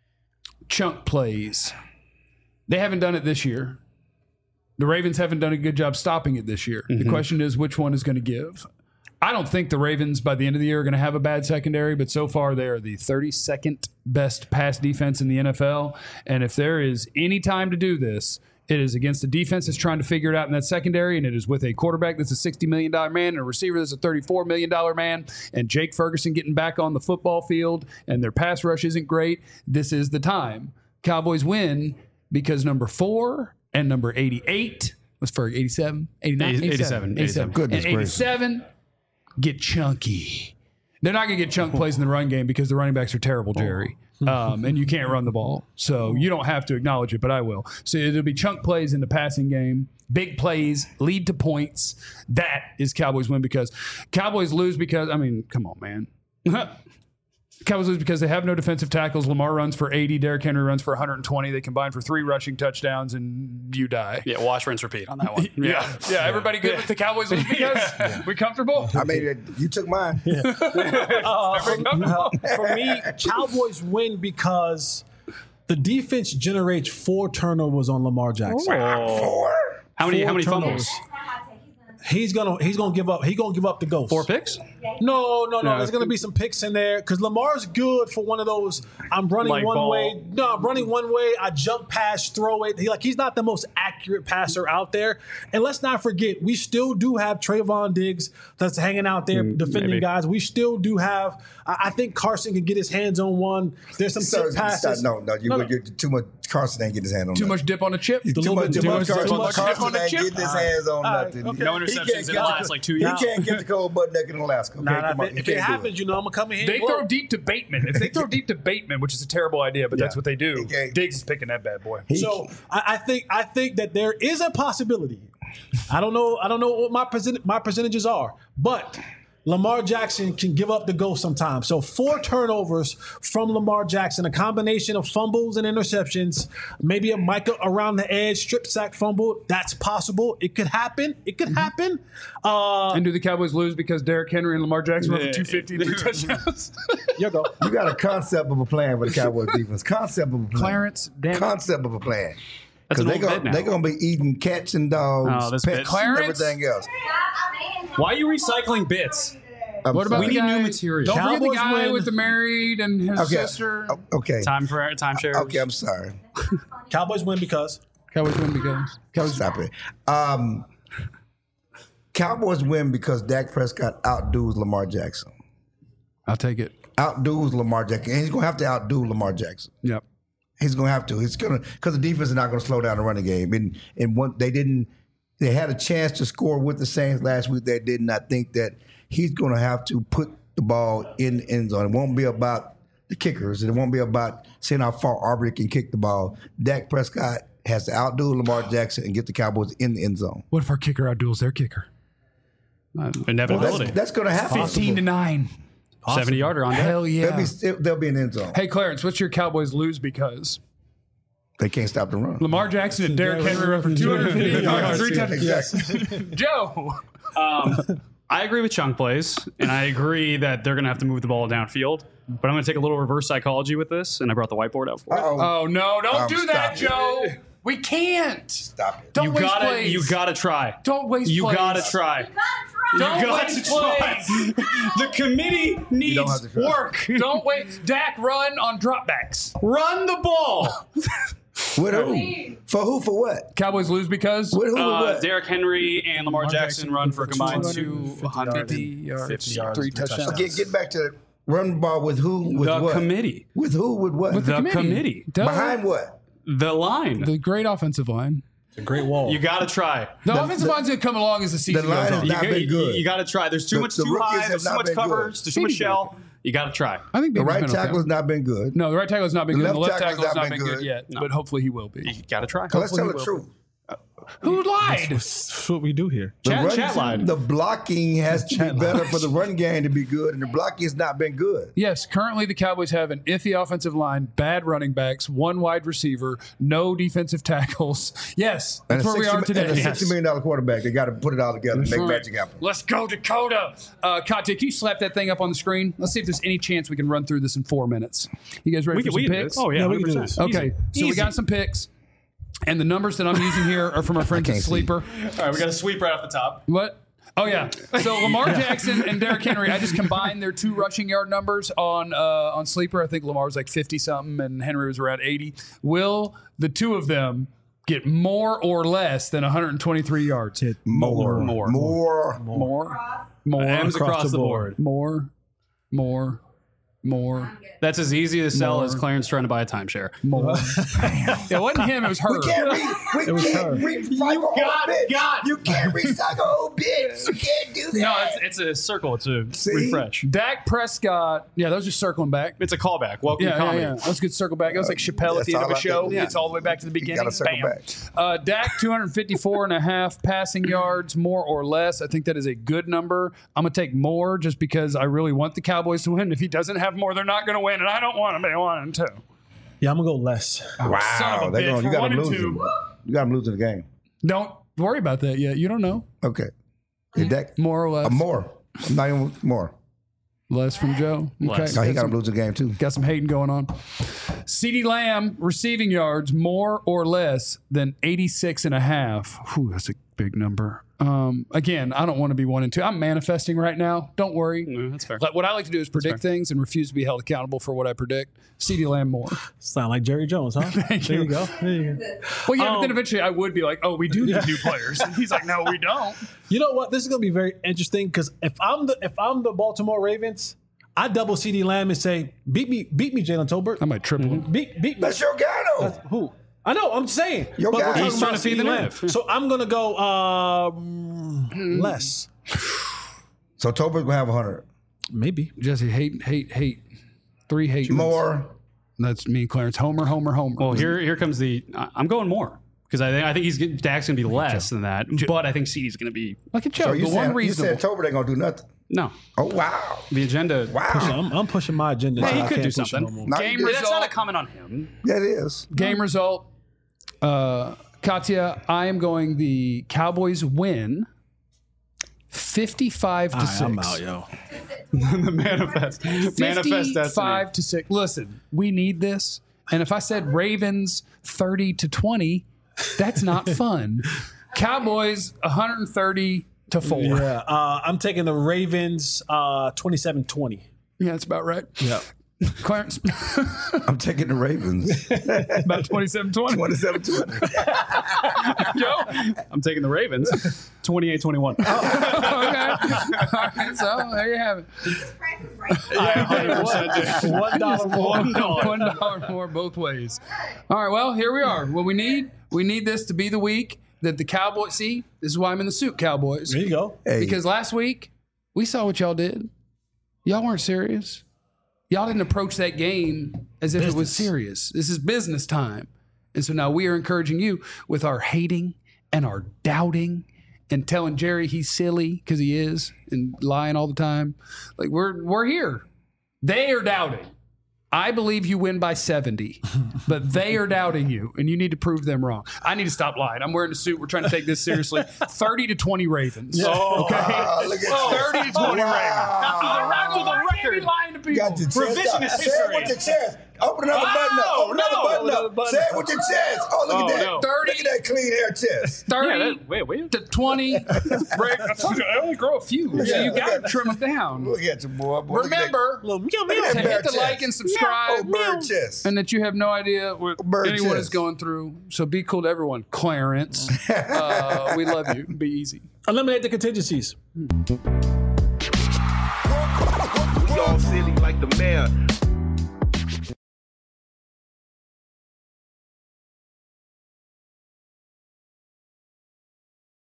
chunk plays. They haven't done it this year. The Ravens haven't done a good job stopping it this year. Mm-hmm. The question is, which one is going to give? I don't think the Ravens by the end of the year are going to have a bad secondary, but so far they are the thirty-second best pass defense in the N F L. And if there is any time to do this, it is against a defense that's trying to figure it out in that secondary, and it is with a quarterback that's a sixty million dollars man and a receiver that's a thirty-four million dollars man, and Jake Ferguson getting back on the football field, and their pass rush isn't great. This is the time. Cowboys win because number four and number eighty-eight was Ferg, eighty-seven, eighty-nine, eighty-seven, eighty-seven. Goodness and gracious. eighty-seven get chunky. They're not going to get chunk plays in the run game because the running backs are terrible, Jerry. Um, and you can't run the ball. So you don't have to acknowledge it, but I will. So it'll be chunk plays in the passing game, big plays, lead to points. That is Cowboys win because Cowboys lose because, I mean, come on, man. Cowboys lose because they have no defensive tackles. Lamar runs for eighty. Derrick Henry runs for one hundred twenty. They combine for three rushing touchdowns, and you die. Yeah, wash, rinse, repeat on that one. Yeah. Yeah. Everybody good with the Cowboys lose because we comfortable? I mean, it- you took mine. Uh, for, for me, Cowboys win because the defense generates four turnovers on Lamar Jackson. Four. How many? Four How many turnovers. fumbles? He's gonna he's gonna give up. He's gonna give up the ghost. Four picks? No, no, no. No. There's gonna be some picks in there because Lamar's good for one of those. I'm running Light one ball. way. No, I'm running one way. I jump pass, throw it. He like he's not the most accurate passer out there. And let's not forget, we still do have Trayvon Diggs that's hanging out there defending maybe. guys. We still do have. I, I think Carson can get his hands on one. There's some So, tip passes. no, no, you, No, no. you're too much. Carson ain't getting his hand on Too nothing. much dip on a chip? Too little much, bit- too too much much- Carson. too much Carson on the ain't chip. getting his hands on All right, nothing. okay. No He interceptions can't in the get last the- like two He years. can't get the cold butt naked in Alaska. Okay, Nah, nah, come on. if He it, if it can't do happens, you know, I'm gonna come in here. They and blow. throw deep to Bateman. If they throw deep to Bateman, which is a terrible idea, but that's Yeah. what they do, Okay. Diggs is picking that bad boy. So I, I think I think that there is a possibility. I don't know. I don't know what my percent, my percentages are, but Lamar Jackson can give up the ghost sometimes. So four turnovers from Lamar Jackson, a combination of fumbles and interceptions, maybe a Micah around the edge, strip sack fumble. That's possible. It could happen. It could happen. Uh, And do the Cowboys lose because Derrick Henry and Lamar Jackson run for Yeah. two fifty and three touchdowns? you go. You got a concept of a plan for the Cowboys defense. Concept of a plan. Clarence, damn it. Concept of a plan. That's an they old gonna, bit now. They're going to be eating cats and dogs, Oh, this pets, bit. Clarence? and everything else. Why are you recycling bits? I'm What about sorry. the We need guy, new material. Don't forget the Cowboys guy win. with the married and his Okay. sister. O- Okay. Time for timeshares. Okay, I'm sorry. Cowboys win because Cowboys win because Cowboys. Stop it. Um, Cowboys win because Dak Prescott outdoes Lamar Jackson. I'll take it. Outdoes Lamar Jackson. And he's going to have to outdo Lamar Jackson. Yep. He's going to have to. He's going to because the defense is not going to slow down the running game. And and one, they didn't. They had a chance to score with the Saints last week. They didn't. I think that he's going to have to put the ball in the end zone. It won't be about the kickers. It won't be about seeing how far Aubrey can kick the ball. Dak Prescott has to outdo Lamar Jackson and get the Cowboys in the end zone. What if our kicker outduels their kicker? Uh, That's, inevitability. that's going to happen. Fifteen to nine. seventy yarder on deck. Hell yeah. They'll be, they'll be in the end zone. Hey Clarence, what's your Cowboys lose because? They can't stop the run. Lamar Jackson and Derrick Henry run for two hundred fifty yards, three touchdowns. Exactly. Joe. Um, I agree with chunk plays, and I agree that they're going to have to move the ball downfield. But I'm going to take a little reverse psychology with this, and I brought the whiteboard out for it. Uh-oh. Oh no! Don't Um, do that, stop Joe. We can't. Stop it. Don't You waste gotta, plays. you gotta try. Don't waste You plays. gotta try. Don't you got waste to try. plays. The committee don't needs have to try. work. Don't wait. Dak run on dropbacks. Run the ball. With who? For who? For what? Cowboys lose because With who? with Uh, what? Derrick Henry and Lamar, Jackson, Jackson run for a combined two two hundred fifty yards, fifty yards, three three touchdowns. Get, get back to run the ball with who? With The what? committee. With who? With what? The committee. Duh. Behind what? The line. the great offensive line. it's a great wall. You gotta try. The, The- offensive the- line's gonna come along as the season the line goes is on. not you, been you- good. You, gotta try. There's too The- much the too rookies high. have There's too not much been covers. good. There's too much shell. You got to try. I think The Beamer's right been okay. tackle has not been good. No, the right tackle has not been The good. The left left tackle has not been good, yet, No. but hopefully he will be. You got to try. Let's tell the truth. Who lied? That's what we do here. The, Chat- run- chat lied. the blocking has to be better for the run game to be good, and the blocking has not been good. Yes, currently the Cowboys have an iffy offensive line, bad running backs, one wide receiver, no defensive tackles. Yes, that's And a where we are sixty today. And a sixty million dollar quarterback. They got to put it all together and make Right. magic happen. Let's go, Dakota. Uh, Katya, can you slap that thing up on the screen? Let's see if there's any chance we can run through this in four minutes. You guys ready We for can, some we can do picks? this. Oh, yeah, Yeah, we can do one hundred percent. this. Okay, so we Easy. got some picks. And the numbers that I'm using here are from our friends at can't see. Sleeper. All right, we got to sweep right off the top. What? Oh, yeah. So Lamar Jackson and Derrick Henry, I just combined their two rushing yard numbers on uh, on Sleeper. I think Lamar was like fifty-something and Henry was around eighty. Will the two of them get more or less than one hundred twenty-three yards? More. More. More. More. More. M's across, the board. More. More. More. That's as easy to sell More. as Clarence trying to buy a timeshare. More. It wasn't him, it was her. We can't re- we It was can't her. recycle old got- bits. got- You can't recycle old bits. You can't do that. No, it's, it's a circle. It's a See? refresh. Dak Prescott. Yeah, that was just circling back. It's a callback. Welcome Yeah, to yeah, comedy. yeah. That was a good circle back. It was like Chappelle at the That's end of all a I show. did. It's all the way back to the beginning. gotta circle Bam. back. Uh, Dak, two hundred fifty-four and a half passing yards, more or less. I think that is a good number. I'm going to take more just because I really want the Cowboys to win. If he doesn't have more, they're not going to win, and I don't want him. They want him to. Yeah, I'm gonna go less. Wow. Son of a They're bitch. gonna- you We're got one them and losing. two. You got them losing the game. Don't worry about that yet. You don't know. Okay. Hey, Dak, More or less. uh, more. I'm not even more. Less from Joe. Okay. Less. No, he Got got some- them losing the game, too. Got some hating going on. CeeDee Lamb receiving yards more or less than eighty-six and a half. Whew, that's a big number. Um, again, I don't want to be one and two. I'm manifesting right now. Don't worry. No, that's fair. Like, what I like to do is predict things and refuse to be held accountable for what I predict. CeeDee Lamb more. Sound like Jerry Jones, huh? Thank there you. you go. There you go. Well, yeah, but Um, then eventually I would be like, oh, we do need new players. And he's like, no, we don't. You know what? This is gonna be very interesting because if I'm the if I'm the Baltimore Ravens, I double CeeDee Lamb and say, beat me, beat me, Jalen Tolbert. I might triple him. Beat beat me. That's your guy, though. Who? I know. I'm saying. Your but guy. we're talking He's about trying to feed the CeeDee Lamb. narrative. So I'm gonna go um, less, So Tolbert's going to have one hundred. maybe. Jesse, hate, hate, hate. Three hate. More. That's me and Clarence. Homer, Homer, Homer. Well, here here comes the. I- I'm going more because I think I think he's get- Dak's going to be less than that, but I think CeeD's going to be Look at Joe. So you the one said, you reasonable. said Tolbert ain't going to do nothing. no. Oh, wow. The agenda. Wow. I'm, I'm pushing my agenda. Well, till he I could can't do push it something. no more. Not Game good. That's not a result. comment on him. Yeah, it is. Game result. Uh, Katya, I am going the Cowboys win fifty-five to All six. right, I'm out, yo. the manifest. Manifest destiny. fifty-five to six. Listen, we need this. And if I said Ravens thirty to twenty, that's not fun. Cowboys one hundred thirty to four. Yeah, Yeah, uh, I'm taking the Ravens uh, twenty-seven twenty. that's about right. Yeah. Clarence, I'm taking the Ravens. about twenty-seven twenty. twenty-seven twenty. Joe? I'm taking the Ravens. twenty-eight twenty-one. Okay. All right, so there you have it. One dollar more. One dollar. One dollar more both ways. All right, well, here we are. What we need, we need this to be the week that the Cowboys, see, this is why I'm in the suit, Cowboys. There you go. Hey, Because last week, we saw what y'all did. Y'all weren't serious. Y'all didn't approach that game as if it was serious. This is business time. And so now we are encouraging you with our hating and our doubting and telling Jerry he's silly because he is and lying all the time. Like we're we're here. They are doubting. I believe you win by seventy, but they are doubting you, and you need to prove them wrong. I need to stop lying. I'm wearing a suit. We're trying to take this seriously. thirty to twenty Ravens. Oh, Okay? wow, look at you. thirty to twenty Wow. Ravens. For the record, lying to people. Got your chest Revisionist out. Say history. it with your chest. Open another Oh, button up. Open another no. button Another up. button Say it up. with your chest. Oh, look Oh, at that. no. thirty Look at that clean hair chest. thirty Yeah, that, wait, wait. to twenty. I told you, I only grow a few. So Yeah, you look got to at- trim them down. Look at you, boy. boy. Look at that- Remember Little meow, Look meow. at that to bear hit the chest. like and subscribe. Oh, bird chest. And that you have no idea what Bird anyone chest. is going through. So be cool to everyone. Clarence, uh, we love you. Be easy. Eliminate the contingencies. We all silly like the mayor.